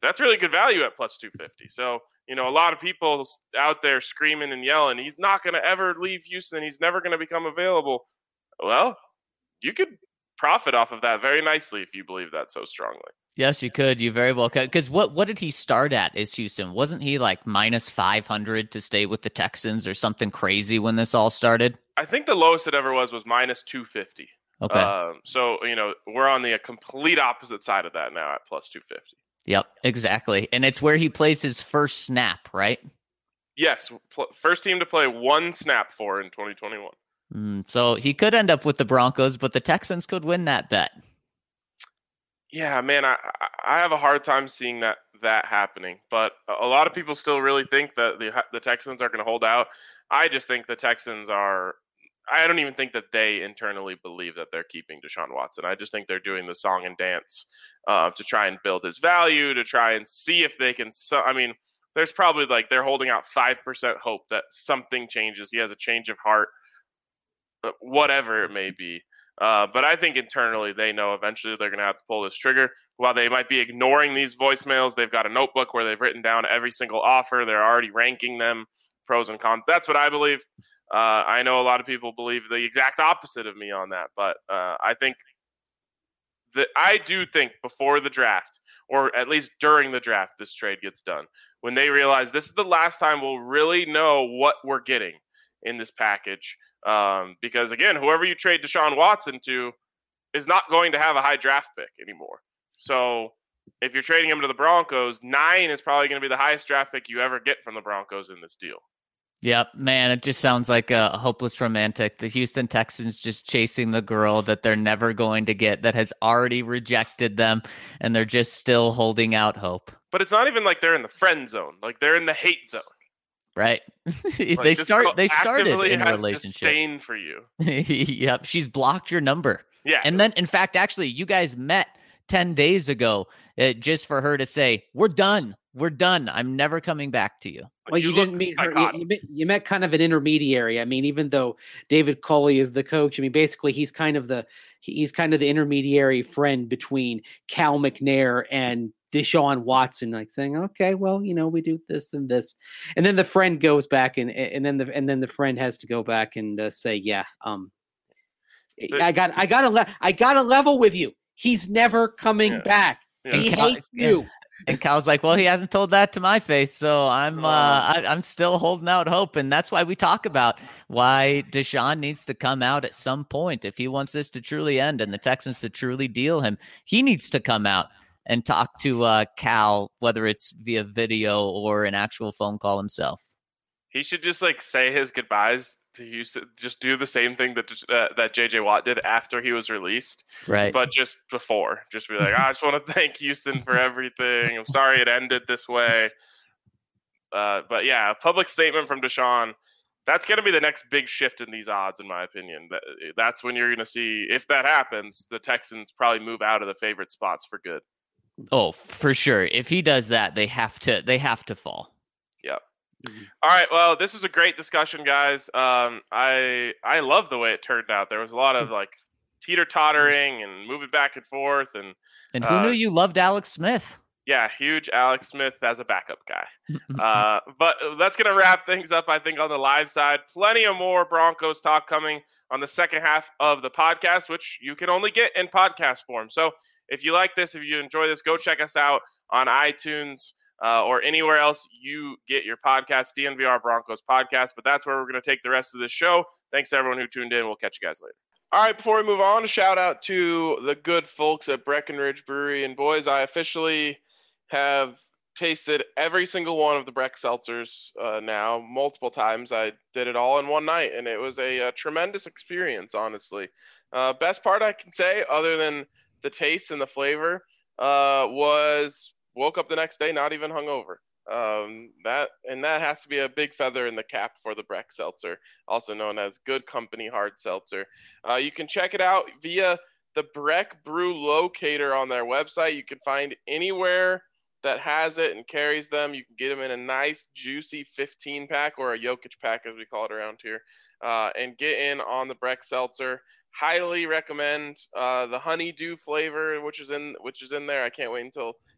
that's really good value at plus two fifty. So, you know, a lot of people out there screaming and yelling, he's not going to ever leave Houston. He's never going to become available. Well, you could profit off of that very nicely if you believe that so strongly. Yes, you could. You very well could. Because what, what did he start at is Houston? Wasn't he like minus five hundred to stay with the Texans or something crazy when this all started? I think the lowest it ever was was minus two fifty. Okay. Um, so, you know, we're on the complete opposite side of that now at plus two fifty. Yep, exactly. And it's where he plays his first snap, right? Yes. Pl- first team to play one snap for in twenty twenty-one. Mm, so he could end up with the Broncos, but the Texans could win that bet. Yeah, man, I I have a hard time seeing that that happening. But a lot of people still really think that the the Texans are going to hold out. I just think the Texans are – I don't even think that they internally believe that they're keeping Deshaun Watson. I just think they're doing the song and dance uh, to try and build his value, to try and see if they can – I mean, there's probably like they're holding out five percent hope that something changes. He has a change of heart, whatever it may be. Uh, but I think internally they know eventually they're going to have to pull this trigger. While they might be ignoring these voicemails, they've got a notebook where they've written down every single offer. They're already ranking them, pros and cons. That's what I believe. Uh, I know a lot of people believe the exact opposite of me on that. But uh, I think that I do think before the draft, or at least during the draft, this trade gets done. When they realize this is the last time we'll really know what we're getting in this package. Um, because, again, whoever you trade Deshaun Watson to is not going to have a high draft pick anymore. So if you're trading him to the Broncos, nine is probably going to be the highest draft pick you ever get from the Broncos in this deal. Yep, man, it just sounds like a hopeless romantic. The Houston Texans just chasing the girl that they're never going to get, that has already rejected them, and they're just still holding out hope. But it's not even like they're in the friend zone. Like, they're in the hate zone. Right. Like, they start. They started in a has relationship. Disdain for you. Yep. She's blocked your number. Yeah. And then, in fact, actually, you guys met ten days ago uh, just for her to say, "We're done. We're done. I'm never coming back to you." Well, you, you didn't meet her. You, you, met, you met kind of an intermediary. I mean, even though David Culley is the coach, I mean, basically he's kind of the he's kind of the intermediary friend between Cal McNair and Deshaun Watson, like saying, "Okay, well, you know, we do this and this," and then the friend goes back and and then the and then the friend has to go back and uh, say, "Yeah, um, I got I got to le- I got to level with you. He's never coming yeah. back. Yeah. He Cal- hates you." And Cal's like, "Well, he hasn't told that to my face, so I'm uh, I, I'm still holding out hope." And that's why we talk about why Deshaun needs to come out at some point if he wants this to truly end and the Texans to truly deal him. He needs to come out and talk to uh, Cal, whether it's via video or an actual phone call himself. He should just like say his goodbyes to Houston. Just do the same thing that uh, that J J Watt did after he was released, right? But just before, just be like, "I just want to thank Houston for everything. I'm sorry it ended this way." Uh, but yeah, a public statement from Deshaun. That's going to be the next big shift in these odds, in my opinion. That, that's when you're going to see, if that happens, the Texans probably move out of the favorite spots for good. Oh, for sure. If he does that, they have to. They have to fall. Yep. Mm-hmm. All right. Well, this was a great discussion, guys. Um, I I love the way it turned out. There was a lot of like teeter tottering and moving back and forth, and and who uh, knew you loved Alex Smith? Yeah, huge Alex Smith as a backup guy. uh, but that's gonna wrap things up, I think, on the live side. Plenty of more Broncos talk coming on the second half of the podcast, which you can only get in podcast form. So if you like this, if you enjoy this, go check us out on iTunes. Uh, or anywhere else you get your podcast, D N V R Broncos podcast. But that's where we're going to take the rest of the show. Thanks to everyone who tuned in. We'll catch you guys later. All right, before we move on, a shout out to the good folks at Breckenridge Brewery. And boys, I officially have tasted every single one of the Breck seltzers uh, now, multiple times. I did it all in one night, and it was a, a tremendous experience, honestly. Uh, best part I can say, other than the taste and the flavor, uh, was woke up the next day not even hungover. Um, that and that has to be a big feather in the cap for the Breck Seltzer, also known as Good Company Hard Seltzer. Uh, you can check it out via the Breck Brew Locator on their website. You can find anywhere that has it and carries them. You can get them in a nice, juicy fifteen pack or a Jokic pack, as we call it around here, uh, and get in on the Breck Seltzer. Highly recommend uh, the honeydew flavor, which is in which is in there. I can't wait until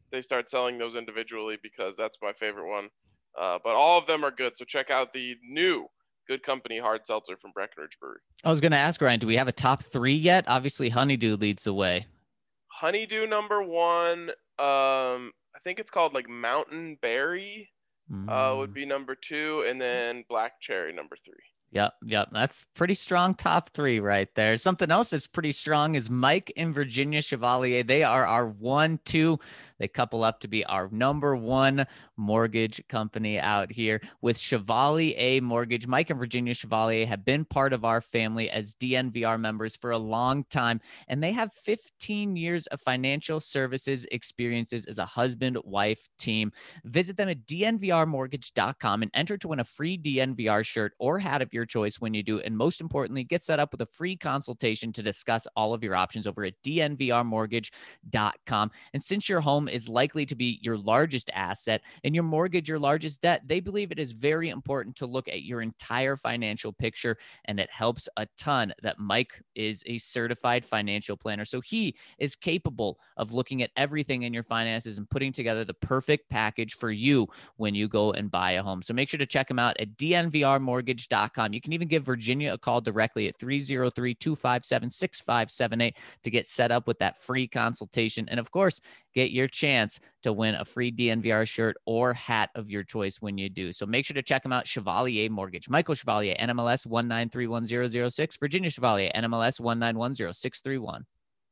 they start selling those individually, because that's my favorite one. Uh, but all of them are good. So check out the new Good Company hard seltzer from Breckenridge Brewery. I was going to ask, Ryan, do we have a top three yet? Obviously, Honeydew leads the way. Honeydew number one. Um, I think it's called like Mountain Berry Mm. uh, would be number two, and then Black Cherry number three. Yep, yep. That's pretty strong top three right there. Something else that's pretty strong is Mike and Virginia Chevalier. They are our one, two. They couple up to be our number one mortgage company out here with Chevalier Mortgage. Mike and Virginia Chevalier have been part of our family as D N V R members for a long time, and they have fifteen years of financial services experiences as a husband-wife team. Visit them at D N V R mortgage dot com and enter to win a free D N V R shirt or hat of your choice when you do. And most importantly, get set up with a free consultation to discuss all of your options over at D N V R mortgage dot com. And since your home is likely to be your largest asset and your mortgage your largest debt, they believe it is very important to look at your entire financial picture, and it helps a ton that Mike is a certified financial planner. So he is capable of looking at everything in your finances and putting together the perfect package for you when you go and buy a home. So make sure to check him out at D N V R mortgage dot com. You can even give Virginia a call directly at three oh three, two five seven, six five seven eight to get set up with that free consultation. And of course, get your chance to win a free D N V R shirt or hat of your choice when you do. So make sure to check them out. Chevalier Mortgage. Michael Chevalier, N M L S one nine three one zero zero six. Virginia Chevalier, N M L S one nine one zero six three one.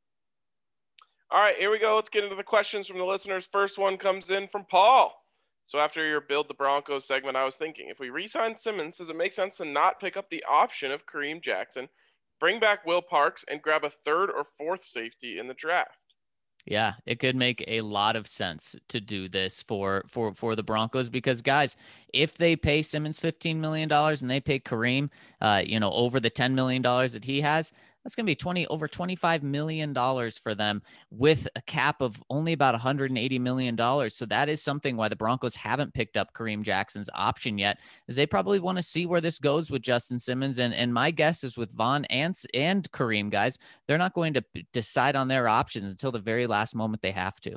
All right, here we go. Let's get into the questions from the listeners. First one comes in from Paul. So after your Build the Broncos segment, I was thinking, if we re-sign Simmons, does it make sense to not pick up the option of Kareem Jackson, bring back Will Parks, and grab a third or fourth safety in the draft? Yeah, it could make a lot of sense to do this for for for the Broncos, because guys, if they pay Simmons fifteen million dollars and they pay Kareem, uh, you know, over the ten million dollars that he has, that's going to be twenty over twenty-five million dollars for them with a cap of only about one hundred eighty million dollars. So that is something why the Broncos haven't picked up Kareem Jackson's option yet, is they probably want to see where this goes with Justin Simmons. And, and my guess is with Von and, and Kareem, guys, they're not going to decide on their options until the very last moment they have to.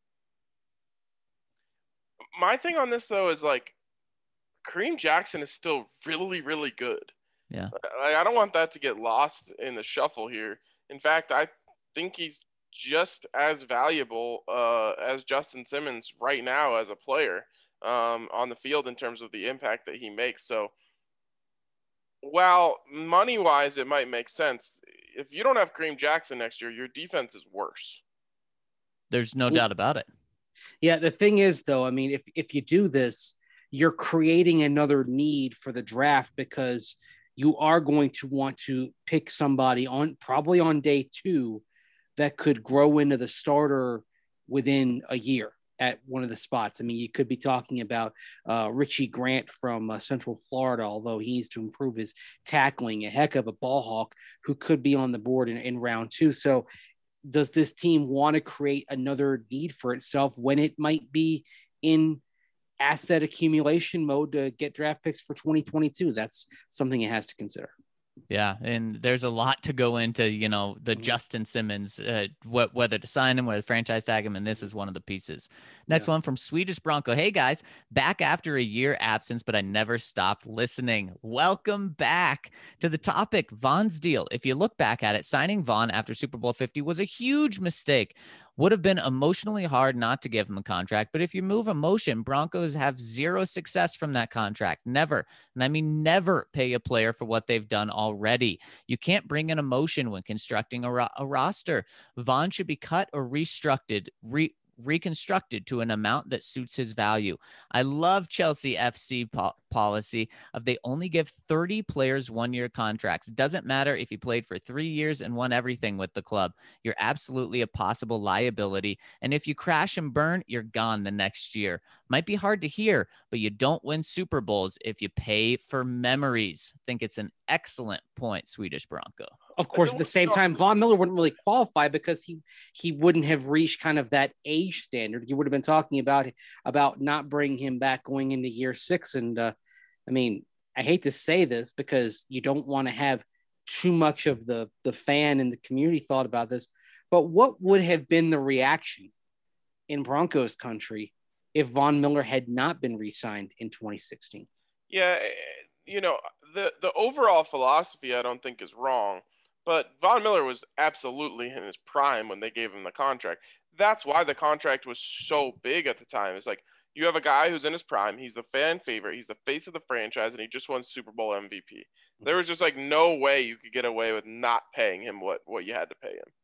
My thing on this, though, is like Kareem Jackson is still really, really good. Yeah, I, I don't want that to get lost in the shuffle here. In fact, I think he's just as valuable uh, as Justin Simmons right now as a player um, on the field in terms of the impact that he makes. So while money-wise it might make sense, if you don't have Kareem Jackson next year, your defense is worse. There's no doubt about it. Yeah, the thing is, though, I mean, if if you do this, you're creating another need for the draft, because you are going to want to pick somebody on probably on day two that could grow into the starter within a year at one of the spots. I mean, you could be talking about uh, Richie Grant from uh, Central Florida, although he needs to improve his tackling, a heck of a ball hawk who could be on the board in, in round two. So does this team want to create another need for itself when it might be in asset accumulation mode to get draft picks for twenty twenty-two? That's something it has to consider. Yeah, and there's a lot to go into, you know, the Mm-hmm. Justin Simmons, uh, wh- whether to sign him, whether to franchise tag him, and this is one of the pieces. Next Yeah. one from Swedish Bronco. Hey, guys, back after a year absence, but I never stopped listening. Welcome back to the topic, Von's deal. If you look back at it, signing Von after Super Bowl fifty was a huge mistake. Would have been emotionally hard not to give him a contract, but if you move emotion, Broncos have zero success from that contract. Never. And I mean, never pay a player for what they've done already. You can't bring in emotion when constructing a, ro- a roster. Von should be cut or restructured, re- reconstructed to an amount that suits his value. I love Chelsea F C po- policy of they only give thirty players one-year contracts. It doesn't matter if you played for three years and won everything with the club. You're absolutely a possible liability. And if you crash and burn, you're gone the next year. Might be hard to hear, but you don't win Super Bowls if you pay for memories. I think it's an excellent point, Swedish Bronco. Of course, at the same time, Von Miller wouldn't really qualify because he he wouldn't have reached kind of that age standard. You would have been talking about about not bringing him back going into year six. And uh, I mean, I hate to say this because you don't want to have too much of the the fan and the community thought about this, but what would have been the reaction in Broncos country if Von Miller had not been re-signed in twenty sixteen. Yeah, you know, the the overall philosophy I don't think is wrong, but Von Miller was absolutely in his prime when they gave him the contract. That's why the contract was so big at the time. It's like you have a guy who's in his prime. He's the fan favorite. He's the face of the franchise, and he just won Super Bowl M V P. There was just like no way you could get away with not paying him what, what you had to pay him.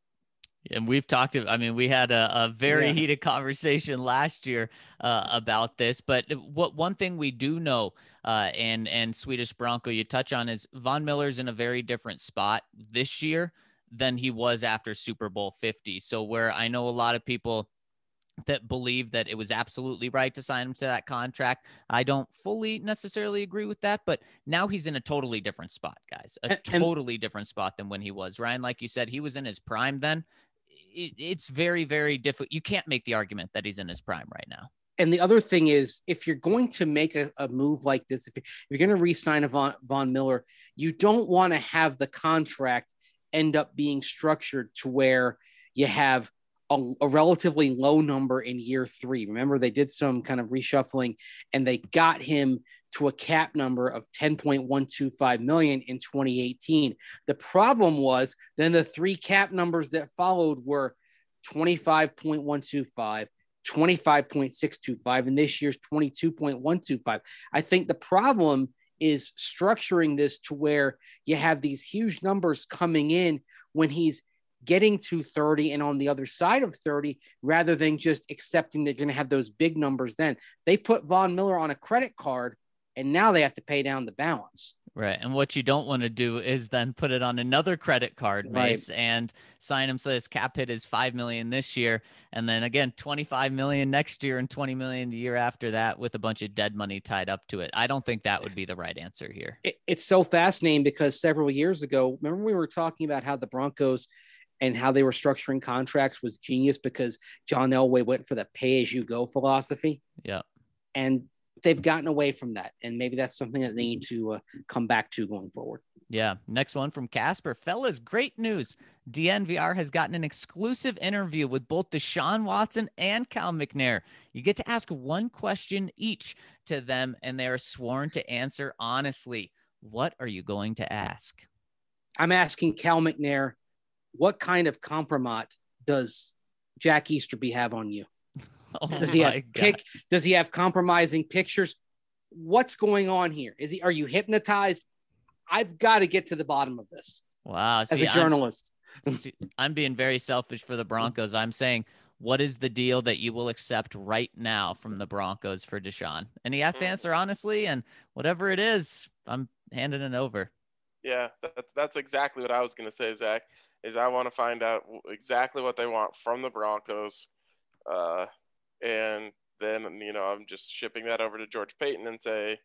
And we've talked, I mean, we had a, a very Yeah. heated conversation last year uh, about this, but what one thing we do know, uh, and, and Swedish Bronco you touch on is Von Miller's in a very different spot this year than he was after Super Bowl fifty. So where I know a lot of people that believe that it was absolutely right to sign him to that contract, I don't fully necessarily agree with that, but now he's in a totally different spot, guys, a And- and- totally different spot than when he was. Ryan, like you said, he was in his prime then. It, it's very, very difficult. You can't make the argument that he's in his prime right now. And the other thing is, if you're going to make a, a move like this, if you're going to re-sign a Von, Von Miller, you don't want to have the contract end up being structured to where you have a, a relatively low number in year three. Remember, they did some kind of reshuffling and they got him to a cap number of ten point one two five million in twenty eighteen. The problem was then the three cap numbers that followed were twenty-five point one two five, twenty-five point six two five, and this year's twenty-two point one two five. I think the problem is structuring this to where you have these huge numbers coming in when he's getting to thirty and on the other side of thirty, rather than just accepting they're going to have those big numbers. Then they put Von Miller on a credit card and now they have to pay down the balance. Right. And what you don't want to do is then put it on another credit card, Mace, Right. and sign him so his cap hit is five million this year. And then again, twenty-five million next year and twenty million the year after that with a bunch of dead money tied up to it. I don't think that would be the right answer here. It, it's so fascinating because several years ago, remember we were talking about how the Broncos and how they were structuring contracts was genius because John Elway went for the pay as you go philosophy. Yeah. And they've gotten away from that. And maybe that's something that they need to uh, come back to going forward. Yeah. Next one from Casper. Fellas, great news. D N V R has gotten an exclusive interview with both Deshaun Watson and Cal McNair. You get to ask one question each to them, and they are sworn to answer honestly. What are you going to ask? I'm asking Cal McNair, what kind of compromise does Jack Easterby have on you? Oh Does he my have God. pic? Does he have compromising pictures? What's going on here? Is he? Are you hypnotized? I've got to get to the bottom of this Wow. as See, a journalist. I'm, see, I'm being very selfish for the Broncos. I'm saying, what is the deal that you will accept right now from the Broncos for Deshaun? And he has to answer honestly, and whatever it is, I'm handing it over. Yeah, that's that's exactly what I was going to say, Zach. Is I want to find out exactly what they want from the Broncos, uh, and then you know I'm just shipping that over to George Payton and say,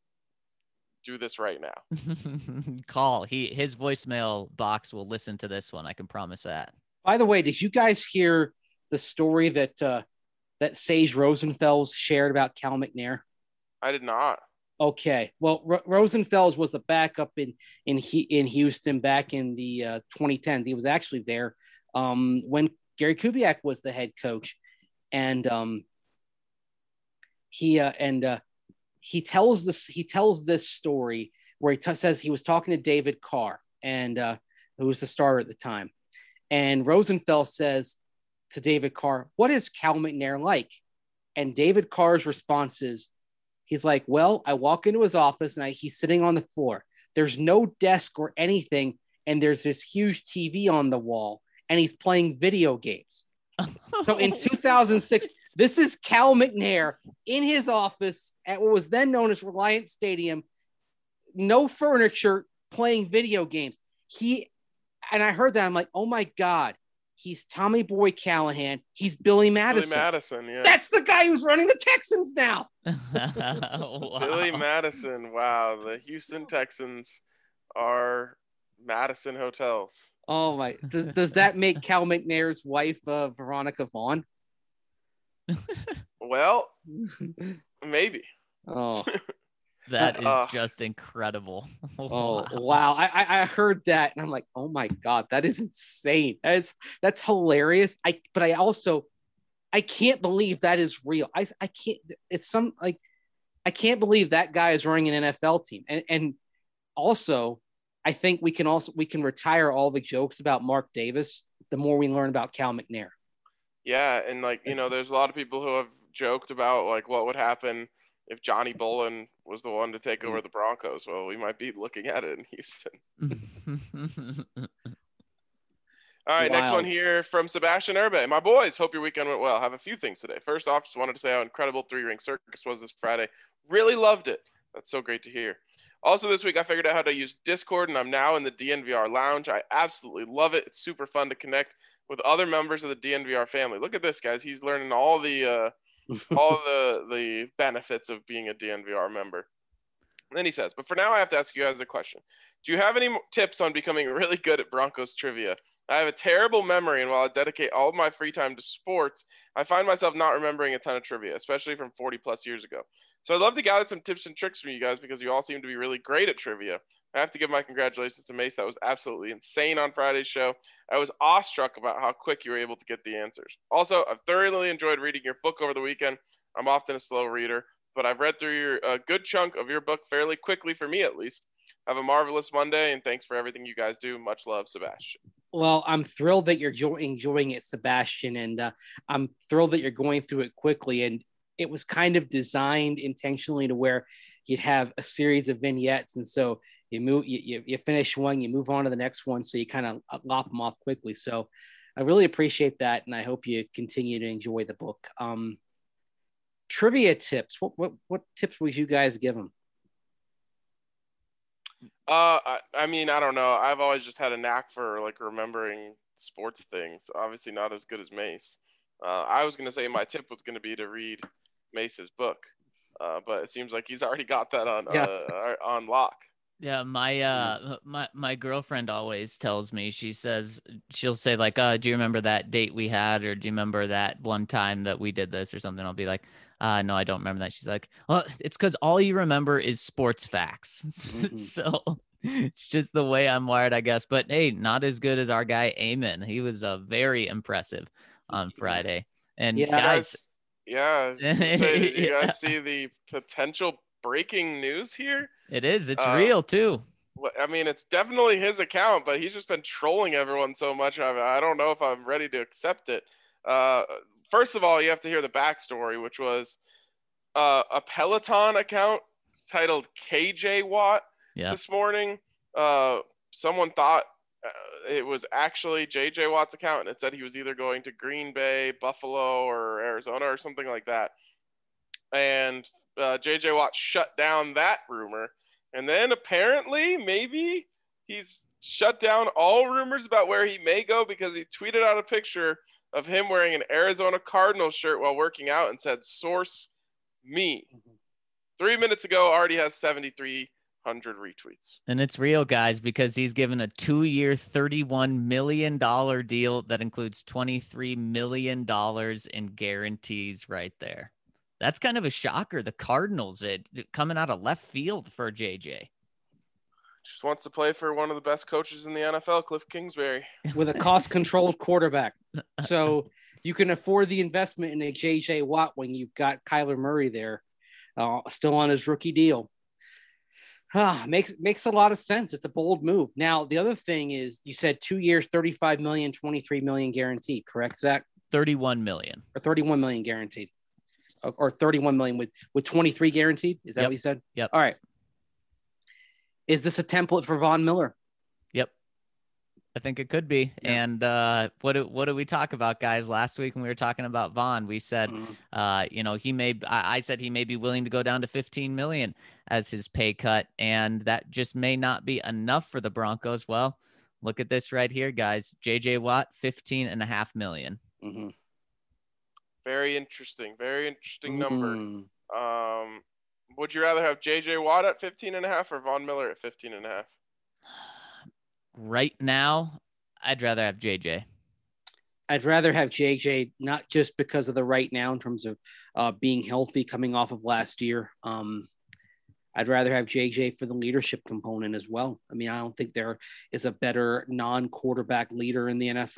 do this right now. Call. He his voicemail box will listen to this one. I can promise that. By the way, did you guys hear the story that uh, that Sage Rosenfels shared about Cal McNair? I did not. Okay, well, R- Rosenfels was a backup in in he, in Houston back in the uh, twenty tens. He was actually there um, when Gary Kubiak was the head coach, and um, he uh, and uh, he tells this he tells this story where he t- says he was talking to David Carr, and uh, who was the starter at the time, and Rosenfels says to David Carr, "What is Cal McNair like?" And David Carr's response is, he's like, well, I walk into his office and I, he's sitting on the floor. There's no desk or anything. And there's this huge T V on the wall and he's playing video games. So in two thousand six, this is Cal McNair in his office at what was then known as Reliant Stadium. No furniture, playing video games. He, and I heard that. I'm like, oh my God, he's Tommy Boy Callahan. He's Billy Madison. Billy Madison, yeah. That's the guy who's running the Texans now. Wow. Billy Madison. Wow, the Houston Texans are Madison hotels. Oh my! Does, does that make Cal McNair's wife uh, Veronica Vaughn? Well, maybe. Oh, That is Uh, just incredible. oh, Wow. wow! I, I I heard that and I'm like, oh my God, that is insane. That's that's hilarious. I but I also I can't believe that is real. I I can't. It's some like I can't believe that guy is running an N F L team. And and also, I think we can also we can retire all the jokes about Mark Davis the more we learn about Cal McNair. Yeah, and like you know, there's a lot of people who have joked about like what would happen if Johnny Bolin was the one to take over the Broncos. Well, we might be looking at it in Houston. All right, next one here from Sebastian Urbe. My boys, hope your weekend went well. I have a few things today. First off, just wanted to say how incredible Three Ring Circus was this Friday. Really loved it. That's so great to hear. Also this week, I figured out how to use Discord, and I'm now in the D N V R lounge. I absolutely love it. It's super fun to connect with other members of the D N V R family. Look at this, guys. He's learning all the uh, all the the benefits of being a D N V R member. And then he says, but for now, I have to ask you guys a question. Do you have any tips on becoming really good at Broncos trivia? I have a terrible memory, and while I dedicate all of my free time to sports, I find myself not remembering a ton of trivia, especially from forty plus years ago. So I'd love to gather some tips and tricks from you guys because you all seem to be really great at trivia. I have to give my congratulations to Mace. That was absolutely insane on Friday's show. I was awestruck about how quick you were able to get the answers. Also, I've thoroughly enjoyed reading your book over the weekend. I'm often a slow reader, but I've read through your, a good chunk of your book fairly quickly, for me at least. Have a marvelous Monday, and thanks for everything you guys do. Much love, Sebastian. Well, I'm thrilled that you're jo- enjoying it, Sebastian, and uh, I'm thrilled that you're going through it quickly. And it was kind of designed intentionally to where you'd have a series of vignettes, and so you move, you, you, you finish one, you move on to the next one, so you kind of lop them off quickly. So I really appreciate that, and I hope you continue to enjoy the book. Um, trivia tips. What what what tips would you guys give them? Uh, I, I mean, I don't know. I've always just had a knack for like remembering sports things. Obviously, not as good as Mace. Uh, I was gonna say my tip was gonna be to read Mace's book, uh, but it seems like he's already got that on Yeah. uh, on lock. Yeah, my uh my my girlfriend always tells me, she says, she'll say like, uh, do you remember that date we had, or do you remember that one time that we did this or something? I'll be like, uh no, I don't remember that. She's like, well, it's because all you remember is sports facts. Mm-hmm. So it's just the way I'm wired, I guess. But hey, not as good as our guy Amen. He was uh, very impressive on Friday. And yeah, guys, yeah, say, you yeah. guys see the potential breaking news here? It is. It's uh, real too. I mean, it's definitely his account, but he's just been trolling everyone so much. I, I don't know if I'm ready to accept it. Uh, first of all, you have to hear the backstory, which was uh, a Peloton account titled K J Watt yep. this morning. Uh, someone thought uh, it was actually J J Watt's account, and it said he was either going to Green Bay, Buffalo, or Arizona or something like that. And uh, J J Watt shut down that rumor. And then apparently maybe he's shut down all rumors about where he may go because he tweeted out a picture of him wearing an Arizona Cardinals shirt while working out and said, source me. Mm-hmm. Three minutes ago, already has seventy-three hundred retweets. And it's real, guys, because he's given a two-year, thirty-one million dollars deal that includes twenty-three million dollars in guarantees right there. That's kind of a shocker. The Cardinals, it coming out of left field for J J. Just wants to play for one of the best coaches in the N F L, Cliff Kingsbury. With a cost-controlled quarterback. So you can afford the investment in a J J Watt when you've got Kyler Murray there, uh, still on his rookie deal. Ah, makes makes a lot of sense. It's a bold move. Now, the other thing is you said two years, thirty-five million dollars, twenty-three million dollars guaranteed, correct, Zach? thirty-one million dollars. Or thirty-one million dollars guaranteed. Or thirty-one million with, with twenty-three guaranteed. Is that yep. what you said? Yep. All right. Is this a template for Von Miller? Yep. I think it could be. Yeah. And uh, what do, what do we talk about, guys? Last week when we were talking about Von, we said, mm-hmm. uh, you know, he may, I, I said he may be willing to go down to fifteen million as his pay cut. And that just may not be enough for the Broncos. Well, look at this right here, guys. J J Watt, fifteen and a half million. Mm-hmm. Very interesting. Very interesting number. Mm. Um, would you rather have J J Watt at fifteen and a half or Von Miller at fifteen and a half? Right now, I'd rather have J J. I'd rather have J J, not just because of the right now in terms of uh, being healthy coming off of last year. Um, I'd rather have J J for the leadership component as well. I mean, I don't think there is a better non-quarterback leader in the N F L.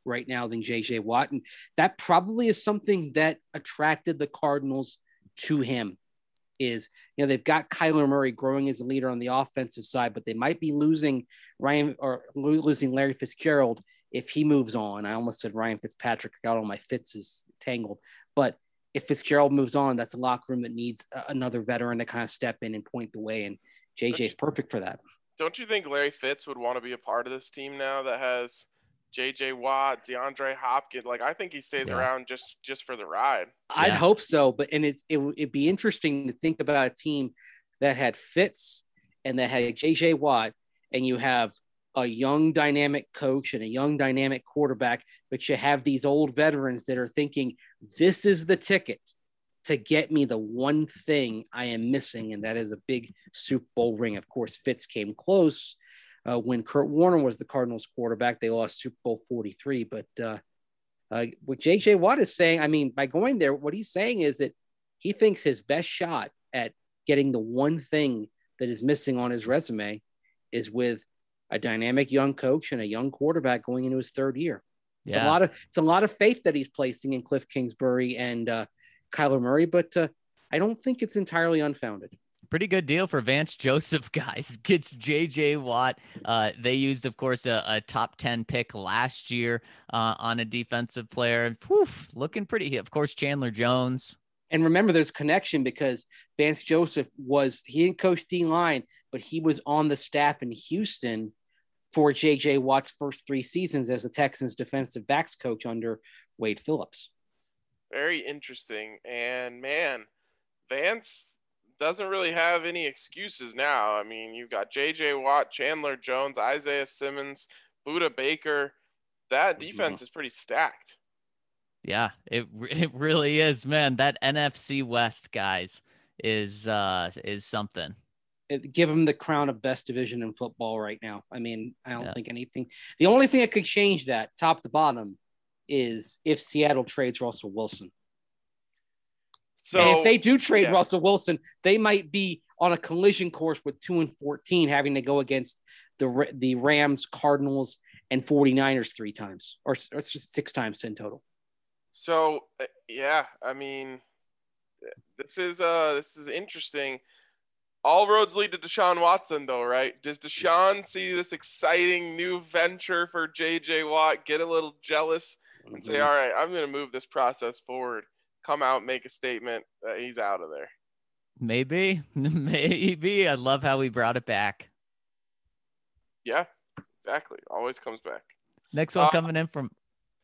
right now than J J Watt. And that probably is something that attracted the Cardinals to him is, you know, they've got Kyler Murray growing as a leader on the offensive side, but they might be losing Ryan or losing Larry Fitzgerald if he moves on. I almost said Ryan Fitzpatrick, got all my Fitzes tangled, but if Fitzgerald moves on, that's a locker room that needs another veteran to kind of step in and point the way. And J J is perfect for that. Don't you think Larry Fitz would want to be a part of this team now that has J J Watt, DeAndre Hopkins? Like, I think he stays yeah. around just, just for the ride. I'd yeah. hope so. But, and it's, it, it'd be interesting to think about a team that had Fitz and that had J J Watt, and you have a young dynamic coach and a young dynamic quarterback, but you have these old veterans that are thinking, this is the ticket to get me the one thing I am missing, and that is a big Super Bowl ring. Of course, Fitz came close uh, when Kurt Warner was the Cardinals quarterback. They lost Super Bowl forty-three, but uh, uh, what J J Watt is saying, I mean, by going there, what he's saying is that he thinks his best shot at getting the one thing that is missing on his resume is with a dynamic young coach and a young quarterback going into his third year. It's yeah. a lot of, it's a lot of faith that he's placing in Cliff Kingsbury and uh, Kyler Murray, but uh, I don't think it's entirely unfounded. Pretty good deal for Vance Joseph, guys. Gets J J Watt. Uh, they used, of course, a, a top ten pick last year uh, on a defensive player. Whew, looking pretty. Of course, Chandler Jones. And remember, there's a connection because Vance Joseph was, he didn't coach D-line, but he was on the staff in Houston for J J Watt's first three seasons as the Texans defensive backs coach under Wade Phillips. Very interesting. And man, Vance doesn't really have any excuses now. I mean, you've got J J Watt, Chandler Jones, Isaiah Simmons, Budda Baker. That defense mm-hmm. is pretty stacked. Yeah, it it really is, man. That N F C West, guys, is uh is something. It, give them the crown of best division in football right now. I mean, I don't yeah. think anything. The only thing that could change that, top to bottom, is if Seattle trades Russell Wilson. So, and if they do trade yeah. Russell Wilson, they might be on a collision course with two and fourteen, having to go against the the Rams, Cardinals, and 49ers three times, or, or six times in total. So yeah, I mean, this is uh this is interesting. All roads lead to Deshaun Watson, though, right? Does Deshaun see this exciting new venture for J J Watt, get a little jealous, and mm-hmm. say, all right, I'm going to move this process forward, come out, make a statement that he's out of there? Maybe. Maybe. I love how we brought it back. Yeah, exactly. Always comes back. Next one uh, coming in from...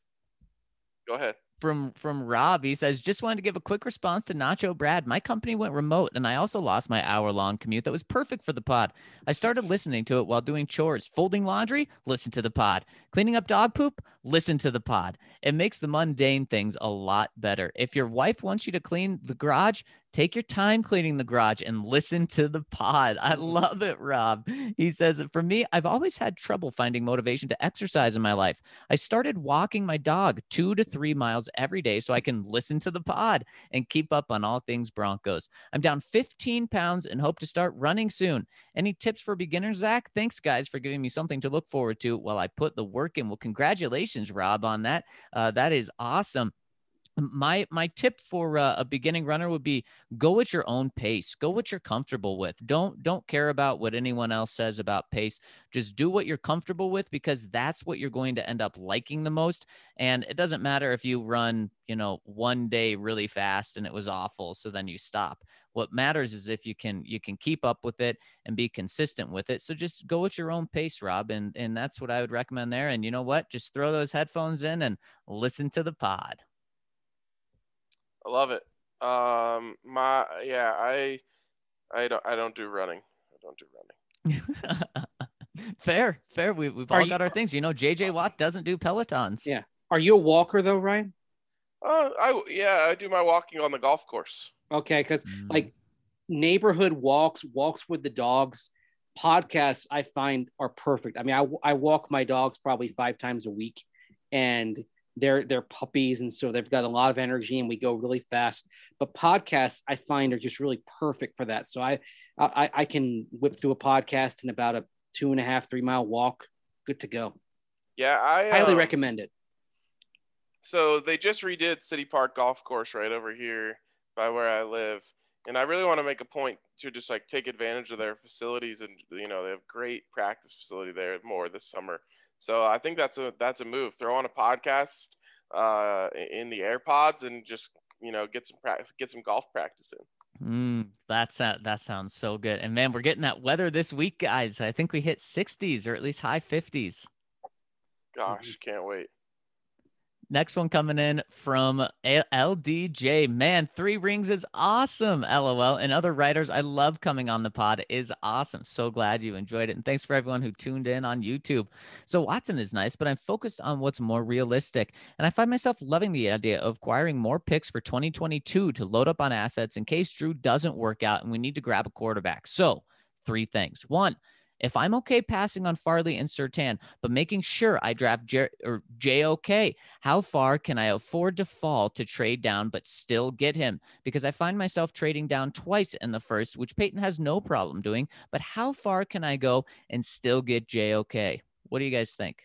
Go ahead. From from Rob, he says, just wanted to give a quick response to Nacho Brad. My company went remote, and I also lost my hour-long commute that was perfect for the pod. I started listening to it while doing chores. Folding laundry? Listen to the pod. Cleaning up dog poop? Listen to the pod. It makes the mundane things a lot better. If your wife wants you to clean the garage, take your time cleaning the garage and listen to the pod. I love it, Rob. He says, for me, I've always had trouble finding motivation to exercise in my life. I started walking my dog two to three miles every day so I can listen to the pod and keep up on all things Broncos. I'm down fifteen pounds and hope to start running soon. Any tips for beginners, Zach? Thanks, guys, for giving me something to look forward to while I put the work in. Well, congratulations, Rob, on that. Uh, that is awesome. My my tip for uh, a beginning runner would be go at your own pace. Go what you're comfortable with. Don't don't care about what anyone else says about pace. Just do what you're comfortable with, because that's what you're going to end up liking the most. And it doesn't matter if you run, you know, one day really fast and it was awful, so then you stop. What matters is if you can you can keep up with it and be consistent with it. So just go at your own pace, Rob, and and that's what I would recommend there. And you know what? Just throw those headphones in and listen to the pod. I love it. Um, my yeah, I, I don't, I don't do running. I don't do running. fair, fair. We we've all Are got you, our things. You know, J J Watt doesn't do Pelotons. Yeah. Are you a walker though, Ryan? Uh, I yeah, I do my walking on the golf course. Okay, because mm. like neighborhood walks, walks with the dogs, podcasts I find are perfect. I mean, I I walk my dogs probably five times a week, and they're they're puppies, and so they've got a lot of energy and we go really fast. But podcasts I find are just really perfect for that. So I I, I can whip through a podcast in about a two and a half, three mile walk. Good to go. Yeah, I highly um, recommend it. So they just redid City Park Golf Course right over here by where I live. And I really want to make a point to just like take advantage of their facilities, and you know they have great practice facility there more this summer. So I think that's a that's a move. Throw on a podcast uh, in the AirPods and just you know get some practice, get some golf practice in. Mm, that's that that sounds so good. And man, we're getting that weather this week, guys. I think we hit sixties or at least high fifties. Gosh, can't wait. Next one coming in from L D J. Man, three rings is awesome. LOL. And other writers, I love coming on the pod. Is awesome. So glad you enjoyed it. And thanks for everyone who tuned in on YouTube. So Watson is nice, but I'm focused on what's more realistic. And I find myself loving the idea of acquiring more picks for twenty twenty-two to load up on assets in case Drew doesn't work out and we need to grab a quarterback. So three things. One, if I'm okay passing on Farley and Surtain, but making sure I draft J- or J O K, how far can I afford to fall to trade down but still get him? Because I find myself trading down twice in the first, which Peyton has no problem doing. But how far can I go and still get J O K? What do you guys think?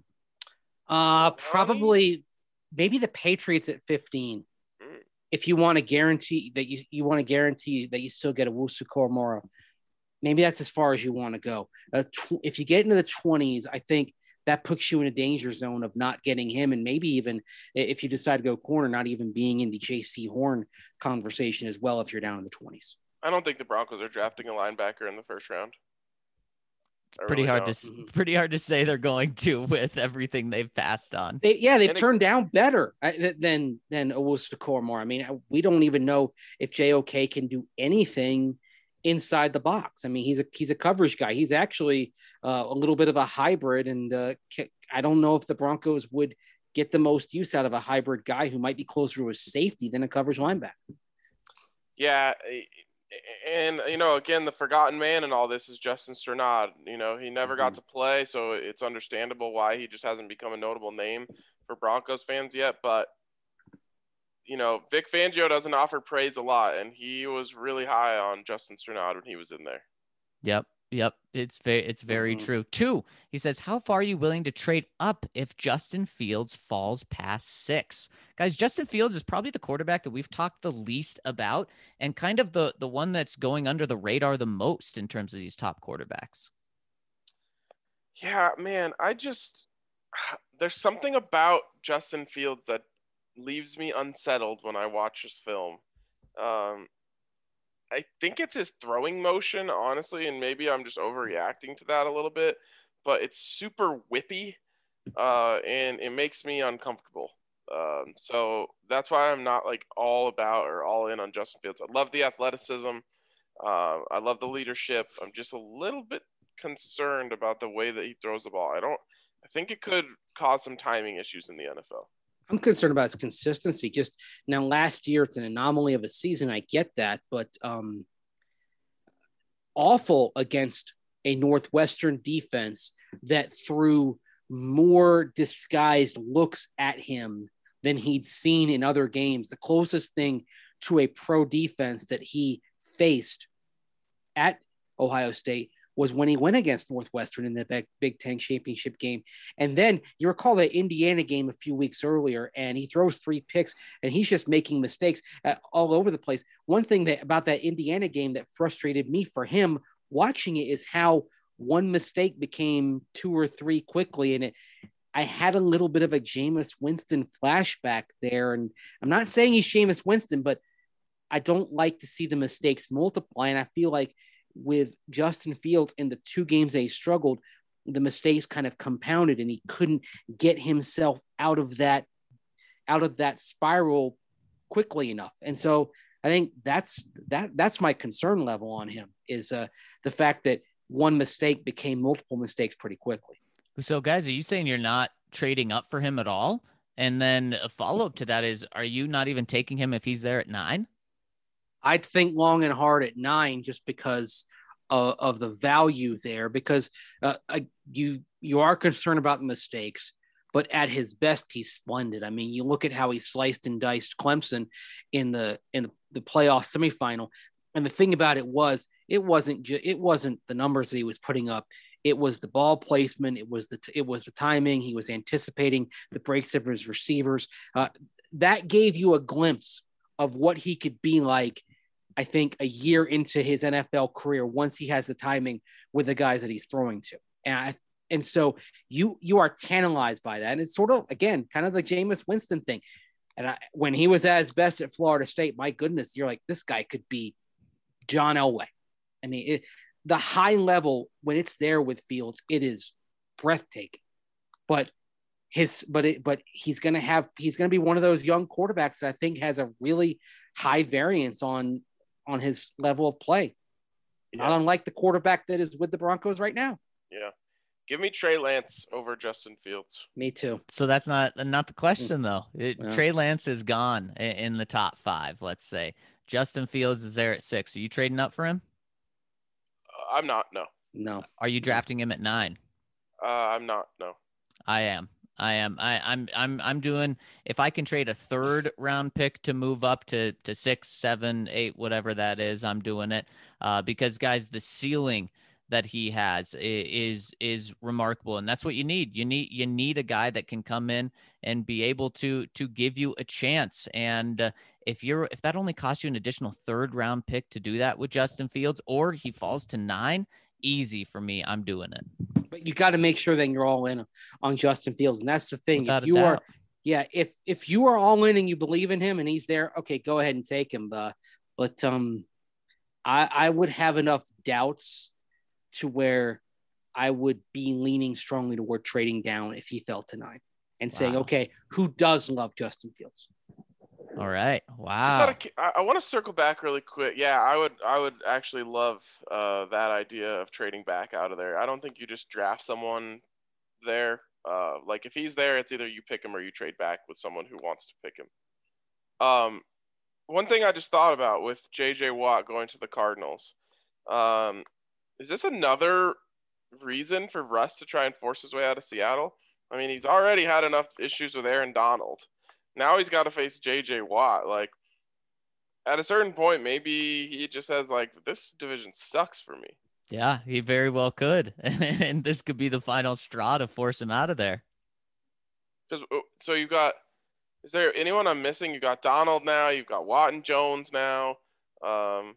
Uh, probably maybe the Patriots at fifteen. If you want to guarantee that you, you want to guarantee that you still get a Owusu-Koramoah. Maybe that's as far as you want to go. Uh, tw- if you get into the twenties, I think that puts you in a danger zone of not getting him. And maybe even if you decide to go corner, not even being in the J C Horn conversation as well if you're down in the twenties. I don't think the Broncos are drafting a linebacker in the first round. It's pretty really hard don't. to mm-hmm. pretty hard to say they're going to with everything they've passed on. They, yeah, they've and turned it, down better than than Owusu-Koramoah. I mean, we don't even know if J O K can do anything inside the box. I mean, he's a he's a coverage guy. He's actually uh, a little bit of a hybrid, and uh, I don't know if the Broncos would get the most use out of a hybrid guy who might be closer to a safety than a coverage linebacker. Yeah, and you know, again, the forgotten man in all this is Justin Strnad. You know, he never mm-hmm. got to play, so it's understandable why he just hasn't become a notable name for Broncos fans yet. But you know, Vic Fangio doesn't offer praise a lot, and he was really high on Justin Strnad when he was in there. Yep, yep, it's very, it's very mm-hmm. true. Two, he says, how far are you willing to trade up if Justin Fields falls past six? Guys, Justin Fields is probably the quarterback that we've talked the least about, and kind of the the one that's going under the radar the most in terms of these top quarterbacks. Yeah, man, I just there's something about Justin Fields that leaves me unsettled when I watch his film. Um, I think it's his throwing motion, honestly, and maybe I'm just overreacting to that a little bit, but it's super whippy, uh, and it makes me uncomfortable. Um, so that's why I'm not like all about or all in on Justin Fields. I love the athleticism. Uh, I love the leadership. I'm just a little bit concerned about the way that he throws the ball. I don't, I think it could cause some timing issues in the N F L. I'm concerned about his consistency. Just now, last year, it's an anomaly of a season. I get that, but um, awful against a Northwestern defense that threw more disguised looks at him than he'd seen in other games. The closest thing to a pro defense that he faced at Ohio State was when he went against Northwestern in the Big Ten championship game. And then you recall that Indiana game a few weeks earlier, and he throws three picks, and he's just making mistakes uh, all over the place. One thing that about that Indiana game that frustrated me for him watching it is how one mistake became two or three quickly. And it, I had a little bit of a Jameis Winston flashback there. And I'm not saying he's Jameis Winston, but I don't like to see the mistakes multiply. And I feel like with Justin Fields in the two games that he struggled, the mistakes kind of compounded and he couldn't get himself out of that, out of that spiral quickly enough. And so I think that's, that that's my concern level on him is uh, the fact that one mistake became multiple mistakes pretty quickly. So guys, are you saying you're not trading up for him at all? And then a follow-up to that is, are you not even taking him if he's there at nine? I'd think long and hard at nine just because uh, of the value there, because uh, I, you you are concerned about mistakes, but at his best, he's splendid. I mean, you look at how he sliced and diced Clemson in the in the playoff semifinal, and the thing about it was, it wasn't ju- it wasn't the numbers that he was putting up. It was the ball placement. It was the it was the timing. He was anticipating the breaks of his receivers. Uh, that gave you a glimpse of what he could be like, I think, a year into his N F L career once he has the timing with the guys that he's throwing to. And I, and so you you are tantalized by that. And it's sort of, again, kind of the Jameis Winston thing. And I, when he was at his best at Florida State, my goodness, you're like, this guy could be John Elway. I mean, it, the high level, when it's there with Fields, it is breathtaking. But his, but it, but he's gonna have, he's gonna be one of those young quarterbacks that I think has a really high variance on on his level of play, Yeah. not unlike the quarterback that is with the Broncos right now. Yeah. Give me Trey Lance over Justin Fields. Me too. So that's not not the question though. It, Yeah. Trey Lance is gone in, in the top five. Let's say Justin Fields is there at six. Are you trading up for him? Uh, I'm not. No. No. Are you drafting him at nine? Uh, I'm not. No. I am. I am. I, I'm. I'm. I'm doing. If I can trade a third round pick to move up to to six, seven, eight, whatever that is, I'm doing it. Uh, because guys, the ceiling that he has is is remarkable, and that's what you need. You need you need a guy that can come in and be able to to give you a chance. And uh, if you're if that only costs you an additional third round pick to do that with Justin Fields, or he falls to nine, easy for me. I'm doing it. But you got to make sure that you're all in on Justin Fields, and that's the thing. Without if a you doubt. are, yeah, if if you are all in and you believe in him and he's there, okay, go ahead and take him. Uh, but um, I I would have enough doubts to where I would be leaning strongly toward trading down if he fell to nine and saying, Wow. okay, who does love Justin Fields? All right. Just Wow. out of cu- I, I want to circle back really quick. Yeah, I would. I would actually love uh, that idea of trading back out of there. I don't think you just draft someone there. Uh, like if he's there, it's either you pick him or you trade back with someone who wants to pick him. Um, one thing I just thought about with J J Watt going to the Cardinals. Um, is this another reason for Russ to try and force his way out of Seattle? I mean, he's already had enough issues with Aaron Donald. Now he's got to face J J Watt. Like, at a certain point, maybe he just says, like, this division sucks for me. Yeah, he very well could. And this could be the final straw to force him out of there. Because so you've got, is there anyone I'm missing? You got Donald now. You've got Watt and Jones now. Um,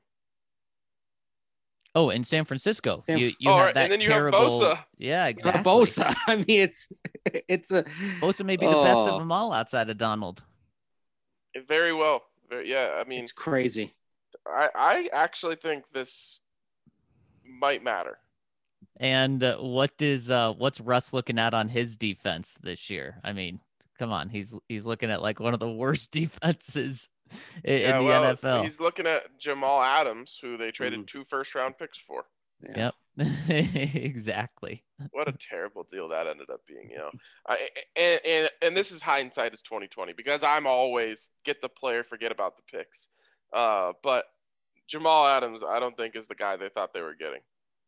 Oh, in San Francisco, San- you you Oh, have right, that and then you have terrible. Bosa. Yeah, exactly. Bosa. I mean, it's it's a Bosa may be the best of Oh. them all outside of Donald. very well. Very, yeah, I mean, it's crazy. I, I actually think this might matter. And uh, what is uh, what's Russ looking at on his defense this year? I mean, come on, he's he's looking at like one of the worst defenses in, Yeah, in the well, N F L. he's looking at Jamal Adams, who they traded Mhm. two first round picks for. Yep, exactly. What a terrible deal that ended up being, you know. I, and, and and this is hindsight is twenty twenty because I'm always get the player, forget about the picks. Uh, but Jamal Adams, I don't think is the guy they thought they were getting.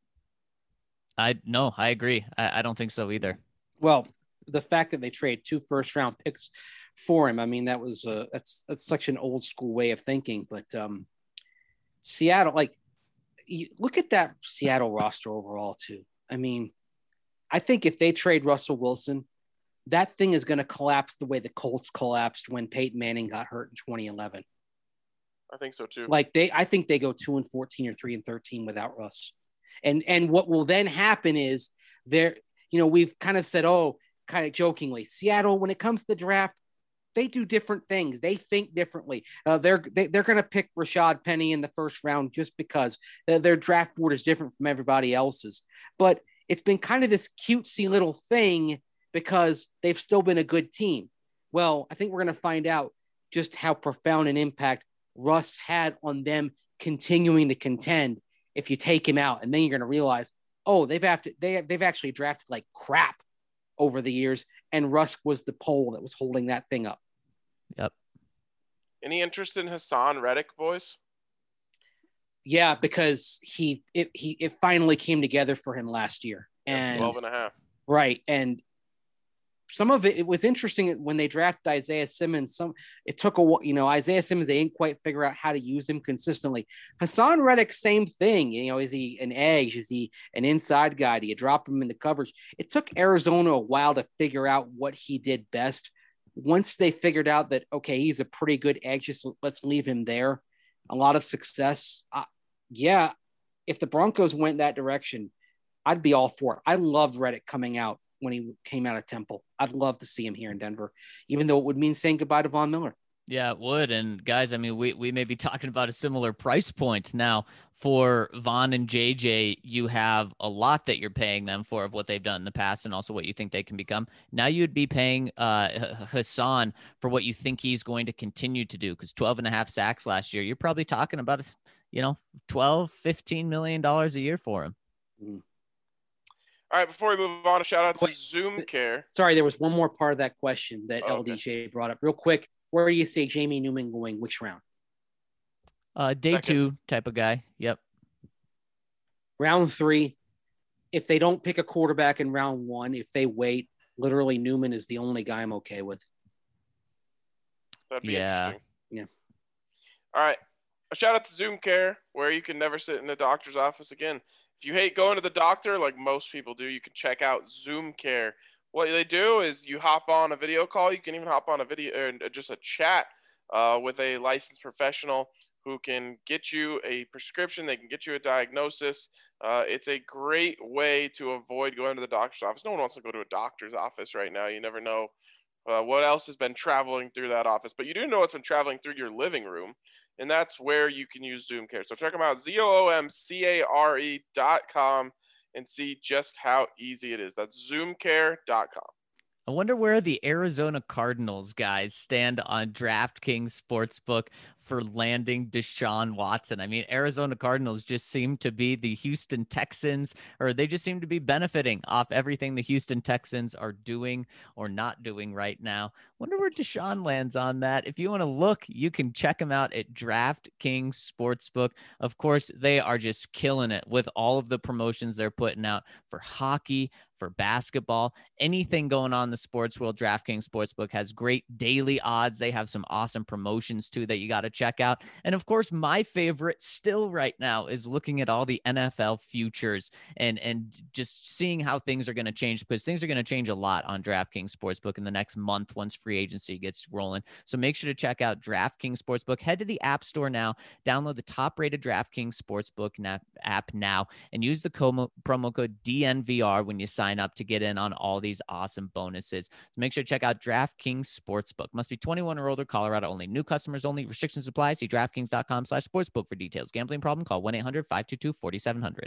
I no, I agree. I, I don't think so either. Well, the fact that they trade two first round picks for him, I mean, that was uh, that's that's such an old school way of thinking. But um, Seattle, like, you look at that Seattle roster overall too. I mean, I think if they trade Russell Wilson, that thing is going to collapse the way the Colts collapsed when Peyton Manning got hurt in twenty eleven. I think so too. Like they, I think they go two and fourteen or three and thirteen without Russ. And and what will then happen is there, you know, we've kind of said, oh, kind of jokingly, Seattle, when it comes to the draft, they do different things. They think differently. Uh, they're they, they're going to pick Rashad Penny in the first round just because uh, their draft board is different from everybody else's. But it's been kind of this cutesy little thing because they've still been a good team. Well, I think we're going to find out just how profound an impact Russ had on them continuing to contend if you take him out. And then you're going to realize, oh, they've have to, they, they've actually drafted like crap over the years. And Russ was the pole that was holding that thing up. Yep. Any interest in Hassan Reddick, boys? Yeah, because he, it, he, it finally came together for him last year. And twelve and a half. right. And some of it, it was interesting when they drafted Isaiah Simmons. Some it took a you know Isaiah Simmons, they didn't quite figure out how to use him consistently. Hassan Reddick, same thing. You know, is he an edge? Is he an inside guy? Do you drop him into coverage? It took Arizona a while to figure out what he did best. Once they figured out that okay, he's a pretty good edge, just let's leave him there. A lot of success. Uh, yeah, if the Broncos went that direction, I'd be all for it. I loved Reddick coming out when he came out of Temple. I'd love to see him here in Denver, even though it would mean saying goodbye to Von Miller. Yeah, it would. And guys, I mean, we, we may be talking about a similar price point now for Von and J J. You have a lot that you're paying them for of what they've done in the past and also what you think they can become. Now you'd be paying uh, Hassan for what you think he's going to continue to do, because twelve and a half sacks last year, you're probably talking about, you know, twelve, fifteen million dollars a year for him. Mm. All right, before we move on, a shout out to Wait, Zoom Care. Sorry, there was one more part of that question that Oh, L D J okay. brought up. Real quick, where do you see Jamie Newman going? Which round? Uh, day Second. two type of guy. Yep. Round three. If they don't pick a quarterback in round one, if they wait, literally Newman is the only guy I'm okay with. That'd be Yeah. interesting. Yeah. All right. A shout out to Zoom Care, where you can never sit in a doctor's office again. If you hate going to the doctor, like most people do, you can check out Zoom Care. What they do is you hop on a video call. You can even hop on a video or just a chat uh, with a licensed professional who can get you a prescription. They can get you a diagnosis. Uh, it's a great way to avoid going to the doctor's office. No one wants to go to a doctor's office right now. You never know uh, what else has been traveling through that office, but you do know what's been traveling through your living room. And that's where you can use Zoom Care. So check them out, Z O O M C A R E dot com, and see just how easy it is. That's zoom care dot com. I wonder where the Arizona Cardinals guys stand on DraftKings Sportsbook for landing Deshaun Watson. I mean, Arizona Cardinals just seem to be the Houston Texans, or they just seem to be benefiting off everything the Houston Texans are doing or not doing right now. Wonder where Deshaun lands on that. If you want to look, you can check him out at DraftKings Sportsbook. Of course, they are just killing it with all of the promotions they're putting out for hockey, for basketball, anything going on in the sports world. DraftKings Sportsbook has great daily odds. They have some awesome promotions too that you got to check out. And of course, my favorite still right now is looking at all the N F L futures and, and just seeing how things are going to change, because things are going to change a lot on DraftKings Sportsbook in the next month once free agency gets rolling. So make sure to check out DraftKings Sportsbook. Head to the App Store now, download the top rated DraftKings Sportsbook app now, and use the promo code D N V R when you sign up to get in on all these awesome bonuses. So make sure to check out DraftKings Sportsbook. Must be twenty-one or older, Colorado only. New customers only. Restrictions apply. See DraftKings.com slash sportsbook for details. Gambling problem? Call one eight hundred five two two four seven zero zero.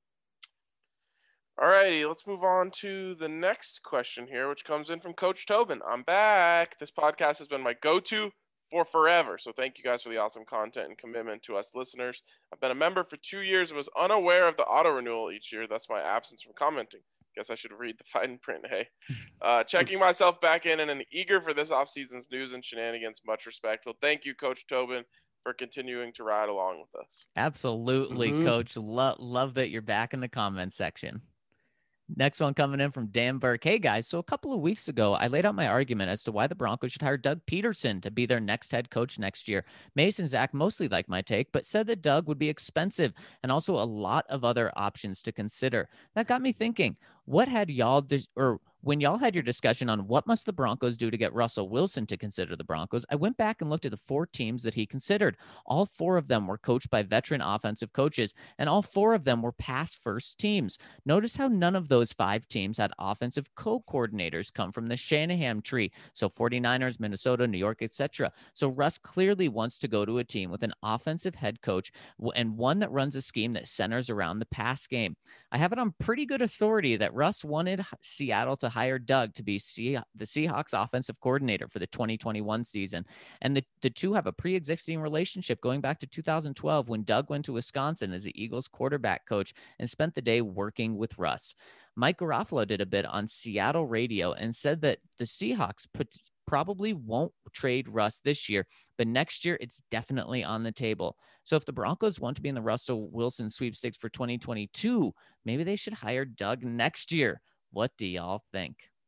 All righty, let's move on to the next question here, which comes in from Coach Tobin. I'm back. This podcast has been my go-to for forever. So thank you guys for the awesome content and commitment to us listeners. I've been a member for two years and was unaware of the auto renewal each year. That's my absence from commenting. Guess I should read the fine print. Hey, uh, checking myself back in and, and eager for this offseason's news and shenanigans. Much respect. Well, thank you, Coach Tobin, for continuing to ride along with us. Absolutely, Mhm. Coach. Lo- love that you're back in the comment section. Next one coming in from Dan Burke. Hey, guys. So a couple of weeks ago, I laid out my argument as to why the Broncos should hire Doug Peterson to be their next head coach next year. Mason Zach mostly liked my take, but said that Doug would be expensive and also a lot of other options to consider. That got me thinking, what had y'all dis- or when y'all had your discussion on what must the Broncos do to get Russell Wilson to consider the Broncos, I went back and looked at the four teams that he considered. All four of them were coached by veteran offensive coaches, and all four of them were pass first teams. Notice how none of those five teams had offensive co-coordinators come from the Shanahan tree. So 49ers, Minnesota, New York, et cetera. So Russ clearly wants to go to a team with an offensive head coach and one that runs a scheme that centers around the pass game. I have it on pretty good authority that Russ wanted Seattle to hire Doug to be the Seahawks offensive coordinator for the twenty twenty-one season. And the, the two have a pre-existing relationship going back to two thousand twelve when Doug went to Wisconsin as the Eagles quarterback coach and spent the day working with Russ. Mike Garofalo did a bit on Seattle radio and said that the Seahawks put, probably won't trade Russ this year, but next year it's definitely on the table. So if the Broncos want to be in the Russell Wilson sweepstakes for twenty twenty-two, maybe they should hire Doug next year. What do y'all think?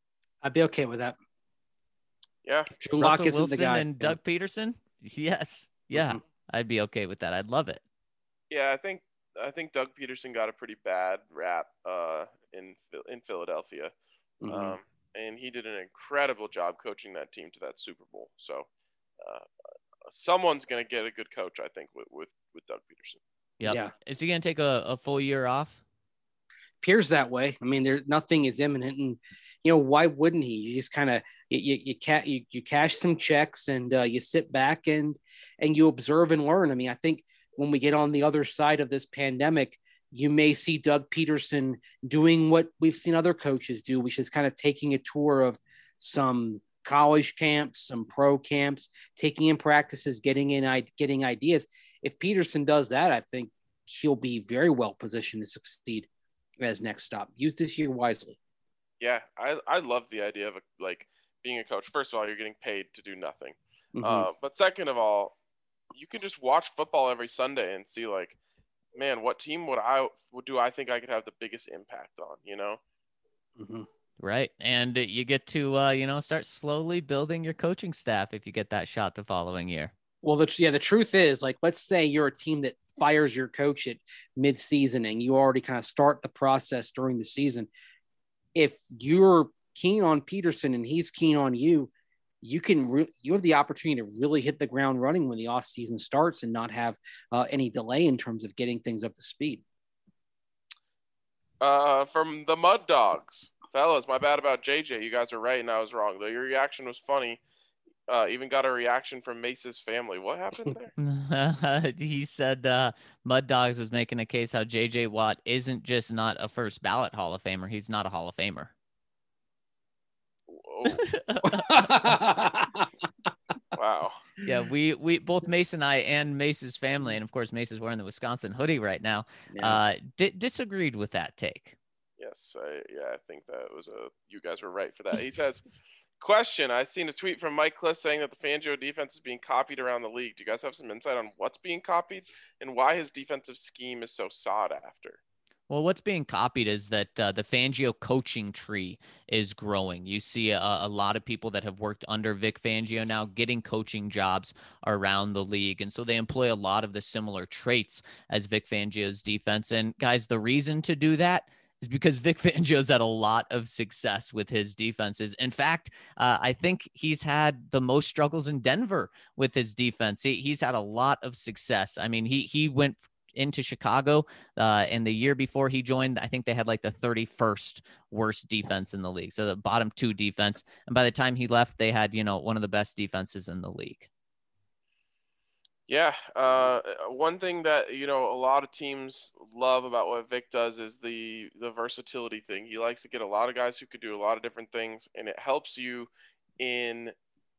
I'd be okay with that. Yeah. Drew Lock Russell isn't Wilson the guy. and Doug Peterson. Yes. Yeah. Mhm. I'd be okay with that. I'd love it. Yeah, I think I think Doug Peterson got a pretty bad rap uh, in in Philadelphia, Mhm. um, and he did an incredible job coaching that team to that Super Bowl. So uh, someone's going to get a good coach, I think, with with, with Doug Peterson. Yep. Yeah. Is he going to take a, a full year off? Appears that way. I mean, there nothing is imminent, and you know why wouldn't he? You just kind of you you you, ca- you you cash some checks and uh, you sit back and and you observe and learn. I mean, I think when we get on the other side of this pandemic, you may see Doug Peterson doing what we've seen other coaches do, which is kind of taking a tour of some college camps, some pro camps, taking in practices, getting in getting ideas. If Peterson does that, I think he'll be very well positioned to succeed as next stop. Use this year wisely. Yeah, I I love the idea of a, like being a coach. First of all, you're getting paid to do nothing, Mhm. uh, but second of all, you can just watch football every Sunday and see like, man, what team would I would do I think I could have the biggest impact on? You know. Mm-hmm. Right. And you get to, uh, you know, start slowly building your coaching staff if you get that shot the following year. Well, the, yeah, the truth is, like, let's say you're a team that fires your coach at mid-season and you already kind of start the process during the season. If you're keen on Peterson and he's keen on you, you can re- you have the opportunity to really hit the ground running when the off season starts and not have uh, any delay in terms of getting things up to speed. Uh, from the Mud Dogs, fellas, my bad about J J. You guys are right and I was wrong. Though your reaction was funny. Uh, even got a reaction from Mace's family. What happened there? He said uh, Mud Dogs was making a case how J J Watt isn't just not a first ballot Hall of Famer. He's not a Hall of Famer. Wow. Yeah, we we both Mace and I and Mace's family, and of course Mace is wearing the Wisconsin hoodie right now. Yeah. Uh, di- disagreed with that take. Yes, I, yeah, I think that was a. You guys were right for that. He says, "Question: I seen a tweet from Mike Kliss saying that the Fangio defense is being copied around the league. Do you guys have some insight on what's being copied and why his defensive scheme is so sought after?" Well, what's being copied is that uh, the Fangio coaching tree is growing. You see a, a lot of people that have worked under Vic Fangio now getting coaching jobs around the league. And so they employ a lot of the similar traits as Vic Fangio's defense. And guys, the reason to do that is because Vic Fangio's had a lot of success with his defenses. In fact, uh, I think he's had the most struggles in Denver with his defense. He, he's had a lot of success. I mean, he he went into Chicago uh, and the year before he joined, I think they had like the thirty-first worst defense in the league. So the bottom two defense. And by the time he left, they had, you know, one of the best defenses in the league. Yeah, uh, one thing that you know a lot of teams love about what Vic does is the the versatility thing. He likes to get a lot of guys who could do a lot of different things, and it helps you in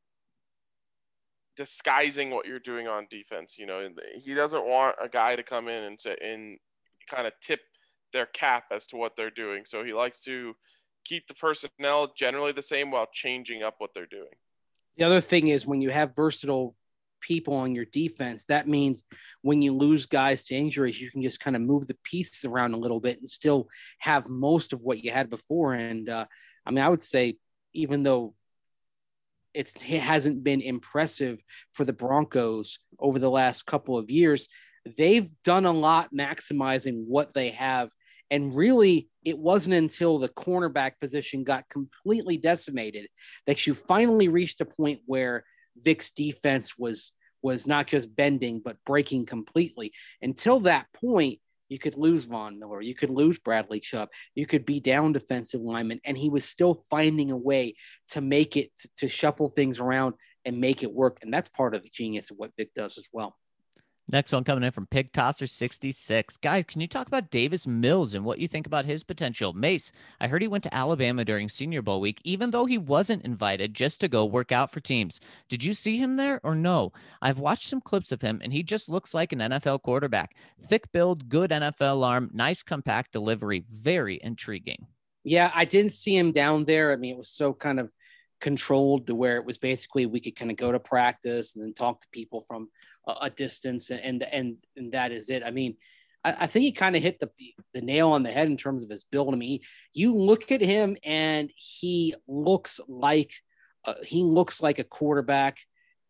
disguising what you're doing on defense. You know, he doesn't want a guy to come in and say and kind of tip their cap as to what they're doing. So he likes to keep the personnel generally the same while changing up what they're doing. The other thing is when you have versatile people on your defense, that means when you lose guys to injuries, you can just kind of move the pieces around a little bit and still have most of what you had before. And uh, I mean, I would say, even though it's, it hasn't been impressive for the Broncos over the last couple of years, they've done a lot maximizing what they have. And really, it wasn't until the cornerback position got completely decimated that you finally reached a point where Vic's defense was was not just bending, but breaking completely. Until that point, you could lose Von Miller, you could lose Bradley Chubb, you could be down defensive linemen, and he was still finding a way to make it, to, to shuffle things around and make it work. And that's part of the genius of what Vic does as well. Next one coming in from Pig Tosser sixty-six. Guys, can you talk about Davis Mills and what you think about his potential? Mace, I heard he went to Alabama during Senior Bowl week, even though he wasn't invited, just to go work out for teams. Did you see him there or no? I've watched some clips of him, and he just looks like an N F L quarterback. Thick build, good N F L arm, nice compact delivery. Very intriguing. Yeah, I didn't see him down there. I mean, it was so kind of controlled to where it was basically we could kind of go to practice and then talk to people from a, a distance, and and and that is it. I mean, I, I think he kind of hit the the nail on the head in terms of his build. I mean, you look at him and he looks like uh, he looks like a quarterback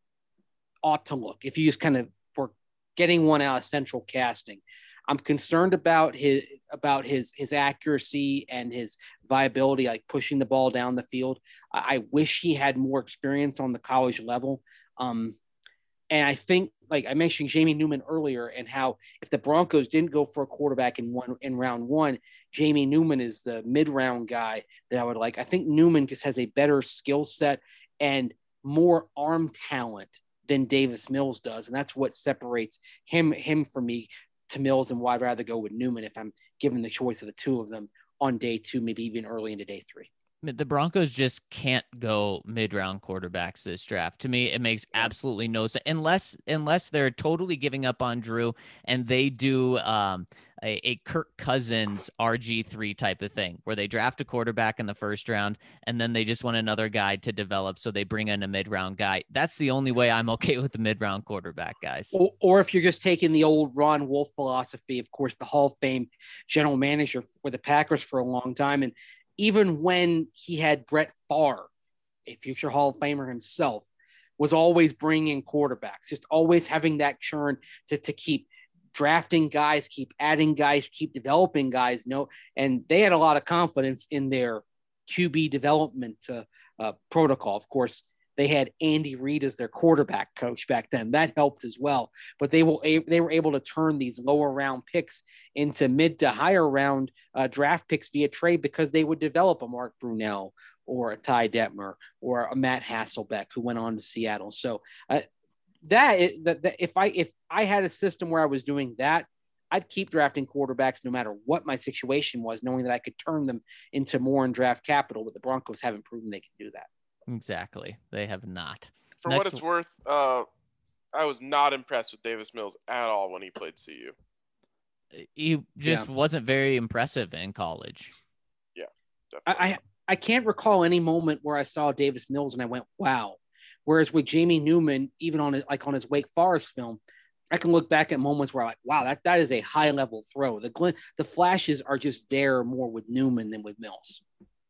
ought to look. If you just kind of were getting one out of central casting, I'm concerned about his about his his accuracy and his viability, like pushing the ball down the field. I, I wish he had more experience on the college level. Um, and I think, like I mentioned, Jamie Newman earlier, and how if the Broncos didn't go for a quarterback in one in round one, Jamie Newman is the mid round guy that I would like. I think Newman just has a better skill set and more arm talent than Davis Mills does, and that's what separates him him from me to Mills, and why I'd rather go with Newman if I'm given the choice of the two of them on day two, maybe even early into day three. The Broncos just can't go mid-round quarterbacks this draft. To me, it makes absolutely no sense unless unless they're totally giving up on Drew and they do um, a, a Kirk Cousins R G three type of thing where they draft a quarterback in the first round and then they just want another guy to develop, so they bring in a mid-round guy. That's the only way I'm okay with the mid-round quarterback guys. Or, or if you're just taking the old Ron Wolf philosophy, of course, the Hall of Fame general manager for the Packers for a long time, and even when he had Brett Favre, a future Hall of Famer himself, was always bringing quarterbacks, just always having that churn to, to keep drafting guys, keep adding guys, keep developing guys. No, and they had a lot of confidence in their Q B development uh, uh, protocol. Of course, they had Andy Reid as their quarterback coach back then. That helped as well. But they will they were able to turn these lower round picks into mid to higher round uh, draft picks via trade because they would develop a Mark Brunell or a Ty Detmer or a Matt Hasselbeck who went on to Seattle. So uh, that, is, that, that if I if I had a system where I was doing that, I'd keep drafting quarterbacks no matter what my situation was, knowing that I could turn them into more in draft capital. But the Broncos haven't proven they can do that. Exactly. They have not. For Next what it's worth, uh, I was not impressed with Davis Mills at all when he played C U. He just yeah. wasn't very impressive in college. Yeah, definitely. I, I I can't recall any moment where I saw Davis Mills and I went, wow. Whereas with Jamie Newman, even on his, like on his Wake Forest film, I can look back at moments where I'm like, wow, that, that is a high level throw. The gl- the flashes are just there more with Newman than with Mills.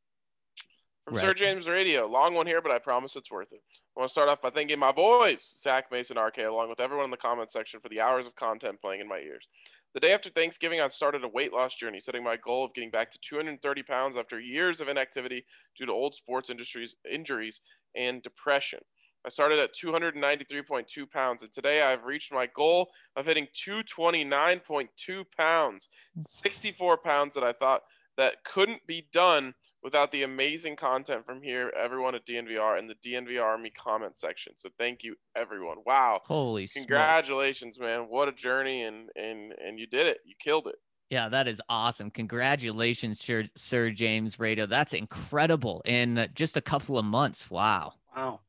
From Right. Sir James Radio, long one here, but I promise it's worth it. I want to start off by thanking my boys, Zach, Mason, R K, along with everyone in the comment section for the hours of content playing in my ears. The day after Thanksgiving, I started a weight loss journey, setting my goal of getting back to two hundred thirty pounds after years of inactivity due to old sports industries, injuries and depression. I started at two hundred ninety-three point two pounds, and today I've reached my goal of hitting two hundred twenty-nine point two pounds, sixty-four pounds that I thought that couldn't be done without the amazing content from here, everyone at D N V R and the D N V R Army comment section. So thank you, everyone. Wow. Holy Congratulations, smokes. man. What a journey, and, and, and you did it. You killed it. Yeah, that is awesome. Congratulations, Sir, Sir James Radio. That's incredible in just a couple of months. Wow. Wow.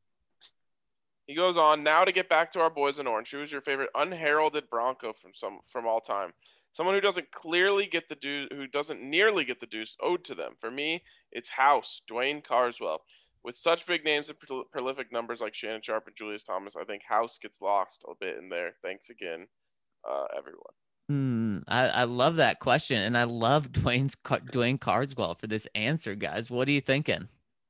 He goes on, now to get back to our boys in orange. Who is your favorite unheralded Bronco from some from all time? Someone who doesn't clearly get the due, who doesn't nearly get the dues owed to them. For me, it's House, Dwayne Carswell. With such big names and pro- prolific numbers like Shannon Sharp and Julius Thomas, I think House gets lost a bit in there. Thanks again, uh, everyone. Mm, I, I love that question, and I love Dwayne's Dwayne Carswell for this answer, guys. What are you thinking?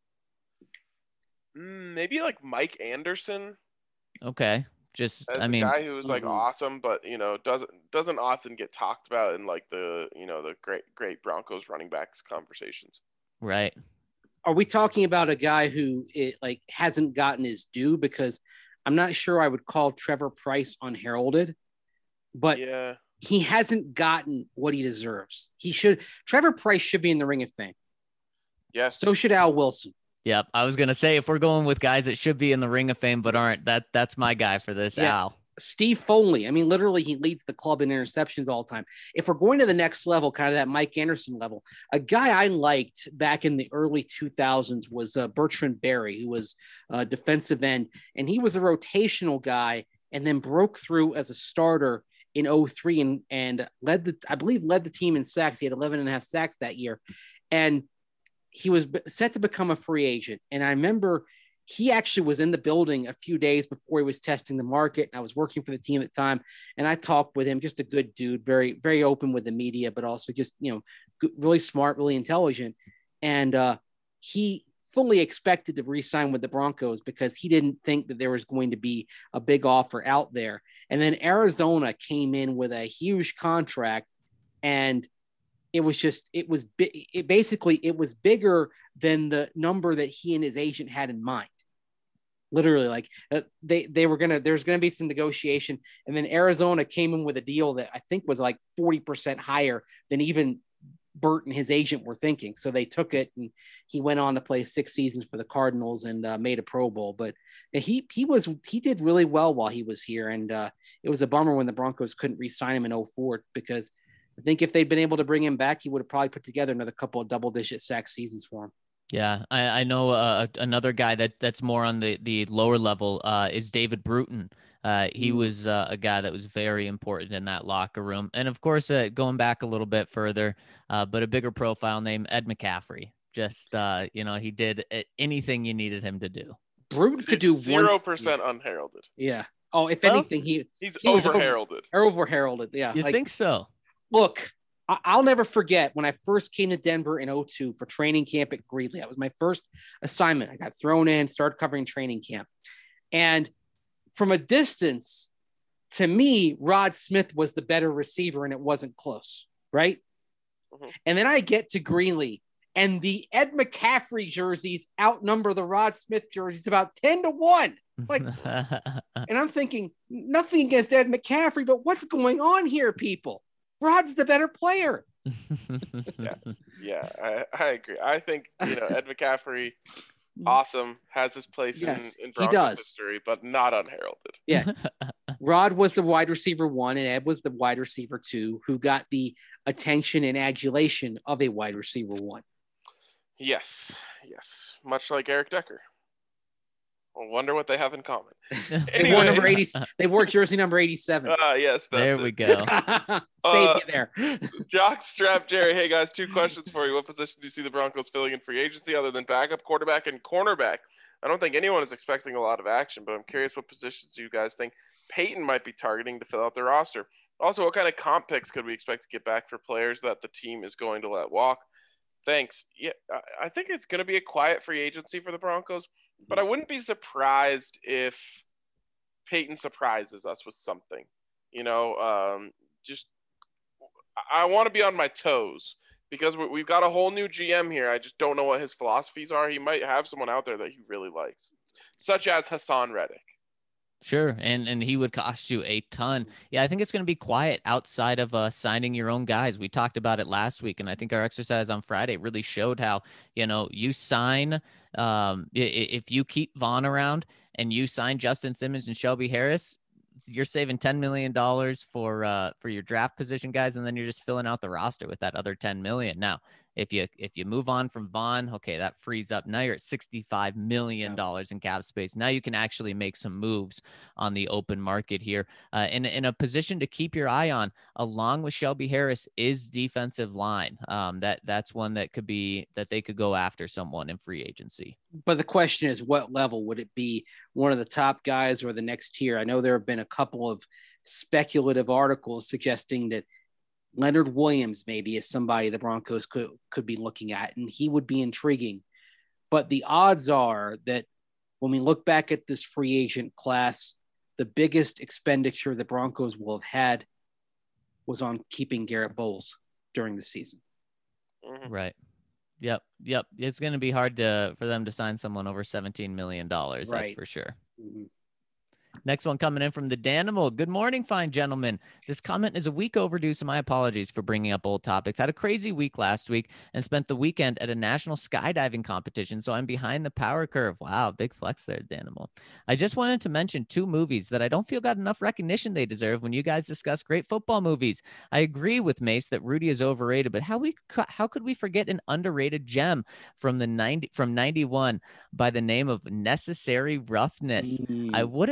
Mm, maybe like Mike Anderson. Okay. Just, As I a mean, guy who's like mm-hmm. awesome, but you know doesn't doesn't often get talked about in like the you know the great great Broncos running backs conversations. Right. Are we talking about a guy who it, like hasn't gotten his due? Because I'm not sure I would call Trevor Pryce unheralded, but yeah, he hasn't gotten what he deserves. He should. Trevor Pryce should be in the Ring of Fame. Yes. So should Al Wilson. Yep. I was going to say, if we're going with guys that should be in the Ring of Fame but aren't, that that's my guy for this, yeah. Al. Steve Foley. I mean, literally, he leads the club in interceptions all the time. If we're going to the next level, kind of that Mike Anderson level, a guy I liked back in the early two thousands was uh, Bertrand Berry, who was a defensive end, and he was a rotational guy and then broke through as a starter in oh three and, and led the, I believe, led the team in sacks. He had eleven and a half sacks that year. And he was set to become a free agent. And I remember he actually was in the building a few days before he was testing the market. And I was working for the team at the time. And I talked with him, just a good dude, very, very open with the media, but also just, you know, good, really smart, really intelligent. And uh, he fully expected to re-sign with the Broncos because he didn't think that there was going to be a big offer out there. And then Arizona came in with a huge contract, and it was just, it was, it basically, it was bigger than the number that he and his agent had in mind. Literally, like uh, they, they were going to, there's going to be some negotiation. And then Arizona came in with a deal that I think was like forty percent higher than even Bert and his agent were thinking. So they took it, and he went on to play six seasons for the Cardinals and uh, made a Pro Bowl. But he, he was, he did really well while he was here. And uh, it was a bummer when the Broncos couldn't re-sign him in oh four, because I think if they'd been able to bring him back, he would have probably put together another couple of double digit sack seasons for him. Yeah, I, I know uh, another guy that that's more on the, the lower level uh, is David Bruton. Uh, he mm. was uh, a guy that was very important in that locker room. And of course, uh, going back a little bit further, uh, but a bigger profile name, Ed McCaffrey. Just, uh, you know, he did anything you needed him to do. Bruton could do zero percent unheralded. Yeah. Oh, if well, anything, he he's he over heralded. Over heralded. Yeah. You like, think so? Look, I'll never forget when I first came to Denver in oh two for training camp at Greeley. That was my first assignment. I got thrown in, started covering training camp. And from a distance, to me, Rod Smith was the better receiver, and it wasn't close, right? Mm-hmm. And then I get to Greeley, and the Ed McCaffrey jerseys outnumber the Rod Smith jerseys about ten to one. Like, and I'm thinking, nothing against Ed McCaffrey, but what's going on here, people? Rod's the better player. yeah, yeah, I, I agree. I think, you know, Ed McCaffrey, awesome, has his place yes, in, in Broncos history, but not unheralded. Yeah. Rod was the wide receiver one, and Ed was the wide receiver two, who got the attention and adulation of a wide receiver one. Yes, yes. Much like Eric Decker. I wonder what they have in common. They wore number eighty. They wore jersey number eighty-seven. Ah, uh, yes, that's there it. we go. Saved uh, you there. Jock Strap Jerry. Hey guys, two questions for you. What position do you see the Broncos filling in free agency other than backup quarterback and cornerback? I don't think anyone is expecting a lot of action, but I'm curious what positions you guys think Peyton might be targeting to fill out their roster. Also, what kind of comp picks could we expect to get back for players that the team is going to let walk? Thanks. Yeah, I think it's going to be a quiet free agency for the Broncos, but I wouldn't be surprised if Peyton surprises us with something. You know, um, just I want to be on my toes because we've got a whole new G M here. I just don't know what his philosophies are. He might have someone out there that he really likes, such as Hassan Reddick. Sure, and and he would cost you a ton. Yeah, I think it's going to be quiet outside of uh, signing your own guys. We talked about it last week, and I think our exercise on Friday really showed how, you know, you sign, um, if you keep Vaughn around and you sign Justin Simmons and Shelby Harris, you're saving ten million dollars for uh, for your draft position guys, and then you're just filling out the roster with that other ten million dollars. Now, if you if you move on from Vaughn, okay, that frees up. Now you're at sixty-five million dollars in cap space. Now you can actually make some moves on the open market here. Uh, in, in a position to keep your eye on, along with Shelby Harris, is defensive line. Um, that That's one that could be, that they could go after someone in free agency. But the question is, what level? Would it be one of the top guys or the next tier? I know there have been a couple of speculative articles suggesting that Leonard Williams maybe is somebody the Broncos could, could be looking at, and he would be intriguing. But the odds are that when we look back at this free agent class, the biggest expenditure the Broncos will have had was on keeping Garrett Bowles during the season. Right. Yep. Yep. It's going to be hard to for them to sign someone over seventeen million dollars. Right. That's for sure. Mm-hmm. Next one coming in from the Danimal. Good morning, fine gentlemen. This comment is a week overdue, so my apologies for bringing up old topics. Had a crazy week last week and spent the weekend at a national skydiving competition, so I'm behind the power curve. Wow, big flex there, Danimal. I just wanted to mention two movies that I don't feel got enough recognition they deserve when you guys discuss great football movies. I agree with Mace that Rudy is overrated, but how we how could we forget an underrated gem from the ninety from ninety-one by the name of Necessary Roughness? Mm. I wouldn't bill it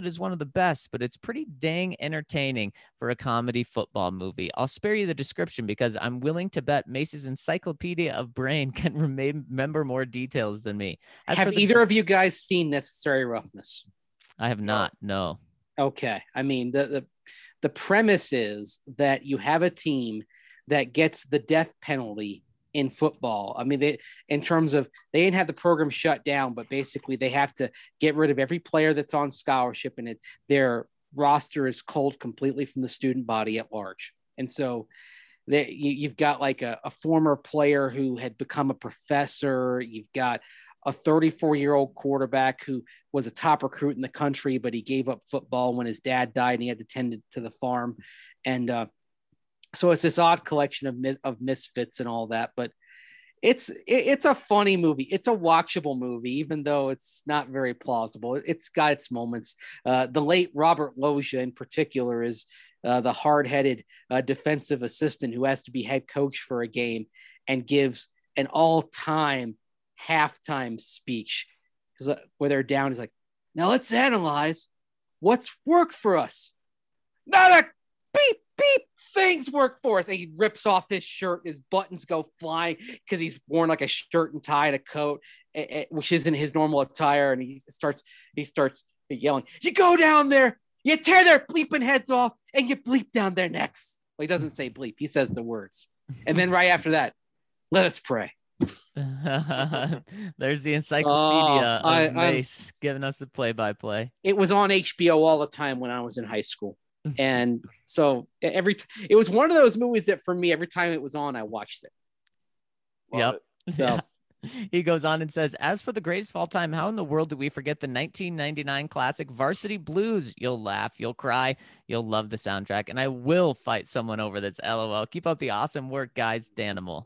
is one of the best, but it's pretty dang entertaining for a comedy football movie. I'll spare you the description because I'm willing to bet Mace's encyclopedia of brain can rem- remember more details than me. As have the- either of you guys seen Necessary Roughness? I have not. No. Okay. I mean, the, the, the premise is that you have a team that gets the death penalty in football. I mean, they, in terms of, they didn't have the program shut down, but basically they have to get rid of every player that's on scholarship, and it, their roster is culled completely from the student body at large. And so they, you, you've got like a, a former player who had become a professor. You've got a thirty-four year old quarterback who was a top recruit in the country, but he gave up football when his dad died and he had to tend to the farm. And, uh, So it's this odd collection of mis- of misfits and all that, but it's it, it's a funny movie. It's a watchable movie, even though it's not very plausible. It's got its moments. Uh, the late Robert Loggia, in particular, is uh, the hard-headed uh, defensive assistant who has to be head coach for a game and gives an all-time halftime speech because uh, where they're down. He's like, "Now let's analyze what's worked for us. Not a beep." Beep, things work for us. And he rips off his shirt, his buttons go flying because he's worn like a shirt and tie and a coat, which isn't his normal attire. And he starts, he starts yelling, "You go down there, you tear their bleeping heads off, and you bleep down their necks." Well, he doesn't say bleep, he says the words. And then right after that, "Let us pray." There's the encyclopedia uh, I, of Mace giving us a play-by-play. It was on H B O all the time when I was in high school. And so every t- it was one of those movies that for me, every time it was on, I watched it. Love yep. It. So. Yeah. He goes on and says, "As for the greatest of all time, how in the world do we forget the nineteen ninety-nine classic Varsity Blues? You'll laugh, you'll cry, you'll love the soundtrack, and I will fight someone over this. LOL. Keep up the awesome work, guys. Danimal."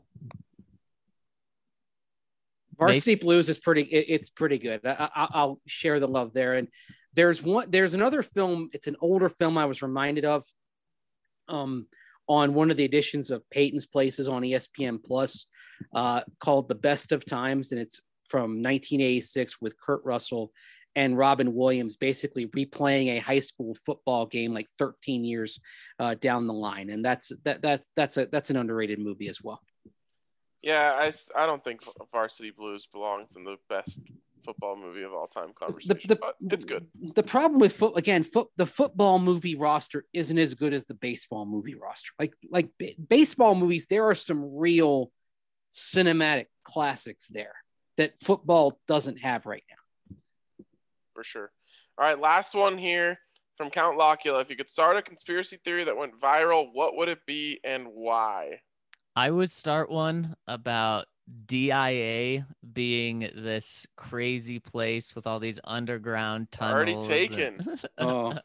Varsity Mace? Blues is pretty. It, it's pretty good. I, I, I'll share the love there. And there's one. There's another film. It's an older film I was reminded of, um, on one of the editions of Peyton's Places on E S P N Plus, uh, called "The Best of Times," and it's from nineteen eighty-six with Kurt Russell and Robin Williams, basically replaying a high school football game like thirteen years uh, down the line. And that's that that's that's a that's an underrated movie as well. Yeah, I, I don't think Varsity Blues belongs in the best football movie of all time conversation, the, the, but it's good. The problem with foot again, foot the football movie roster isn't as good as the baseball movie roster. Like like b- baseball movies, there are some real cinematic classics there that football doesn't have right now. For sure. All right, last one here from Count Locula. If you could start a conspiracy theory that went viral, what would it be and why? I would start one about D I A being this crazy place with all these underground tunnels. Already taken. Oh.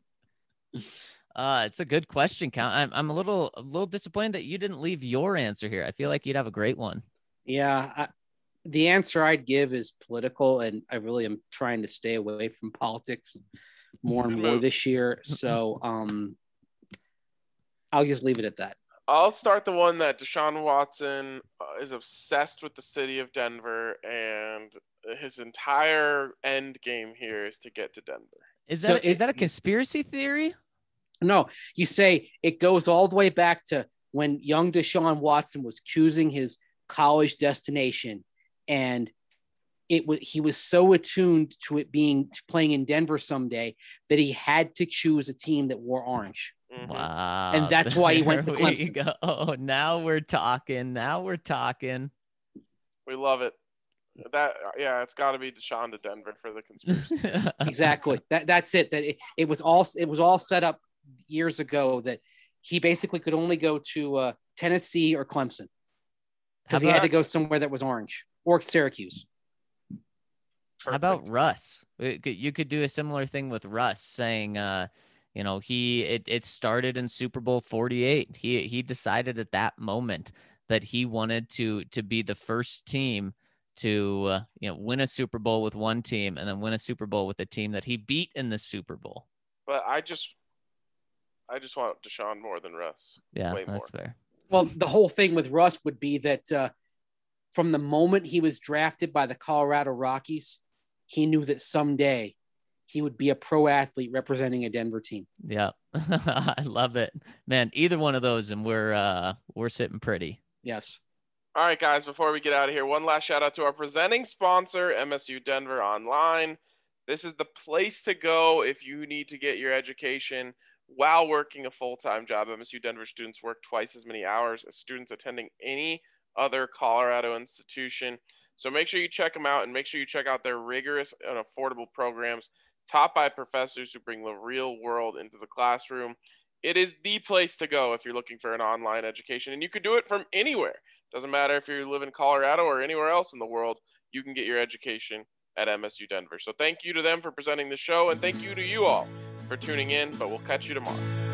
Uh, it's a good question, Count. I'm I'm a little a little disappointed that you didn't leave your answer here. I feel like you'd have a great one. Yeah, I, the answer I'd give is political, and I really am trying to stay away from politics more and more this year. So um, I'll just leave it at that. I'll start the one that Deshaun Watson uh, is obsessed with the city of Denver, and his entire end game here is to get to Denver. Is that So is it- that a conspiracy theory? No, you say it goes all the way back to when young Deshaun Watson was choosing his college destination, and it was he was so attuned to it being playing in Denver someday that he had to choose a team that wore orange. Mhm. Wow. And that's why he went to There we Clemson. go. Oh, now we're talking. Now we're talking. We love it. That yeah, it's got to be Deshaun to Denver for the conspiracy. Exactly. That that's it. That it, it was all it was all set up years ago that he basically could only go to uh, Tennessee or Clemson because he had to go somewhere that was orange or Syracuse. How about Russ? It could- You could do a similar thing with Russ, saying, uh, you know, he it, it started in Super Bowl forty-eight. He he decided at that moment that he wanted to to be the first team to uh, you know win a Super Bowl with one team and then win a Super Bowl with a team that he beat in the Super Bowl. But I just, I just want Deshaun more than Russ. Yeah, Way that's more. fair. Well, the whole thing with Russ would be that uh, from the moment he was drafted by the Colorado Rockies, he knew that someday he would be a pro athlete representing a Denver team. Yeah, I love it, man. Either one of those, and we're uh, we're sitting pretty. Yes. All right, guys. Before we get out of here, one last shout out to our presenting sponsor, M S U Denver Online. This is the place to go if you need to get your education while working a full-time job. M S U Denver students work twice as many hours as students attending any other Colorado institution. So make sure you check them out, and make sure you check out their rigorous and affordable programs taught by professors who bring the real world into the classroom. It is the place to go if you're looking for an online education, and you can do it from anywhere. Doesn't matter if you live in Colorado or anywhere else in the world, you can get your education at M S U Denver. So thank you to them for presenting the show, and thank you to you all for tuning in, but we'll catch you tomorrow.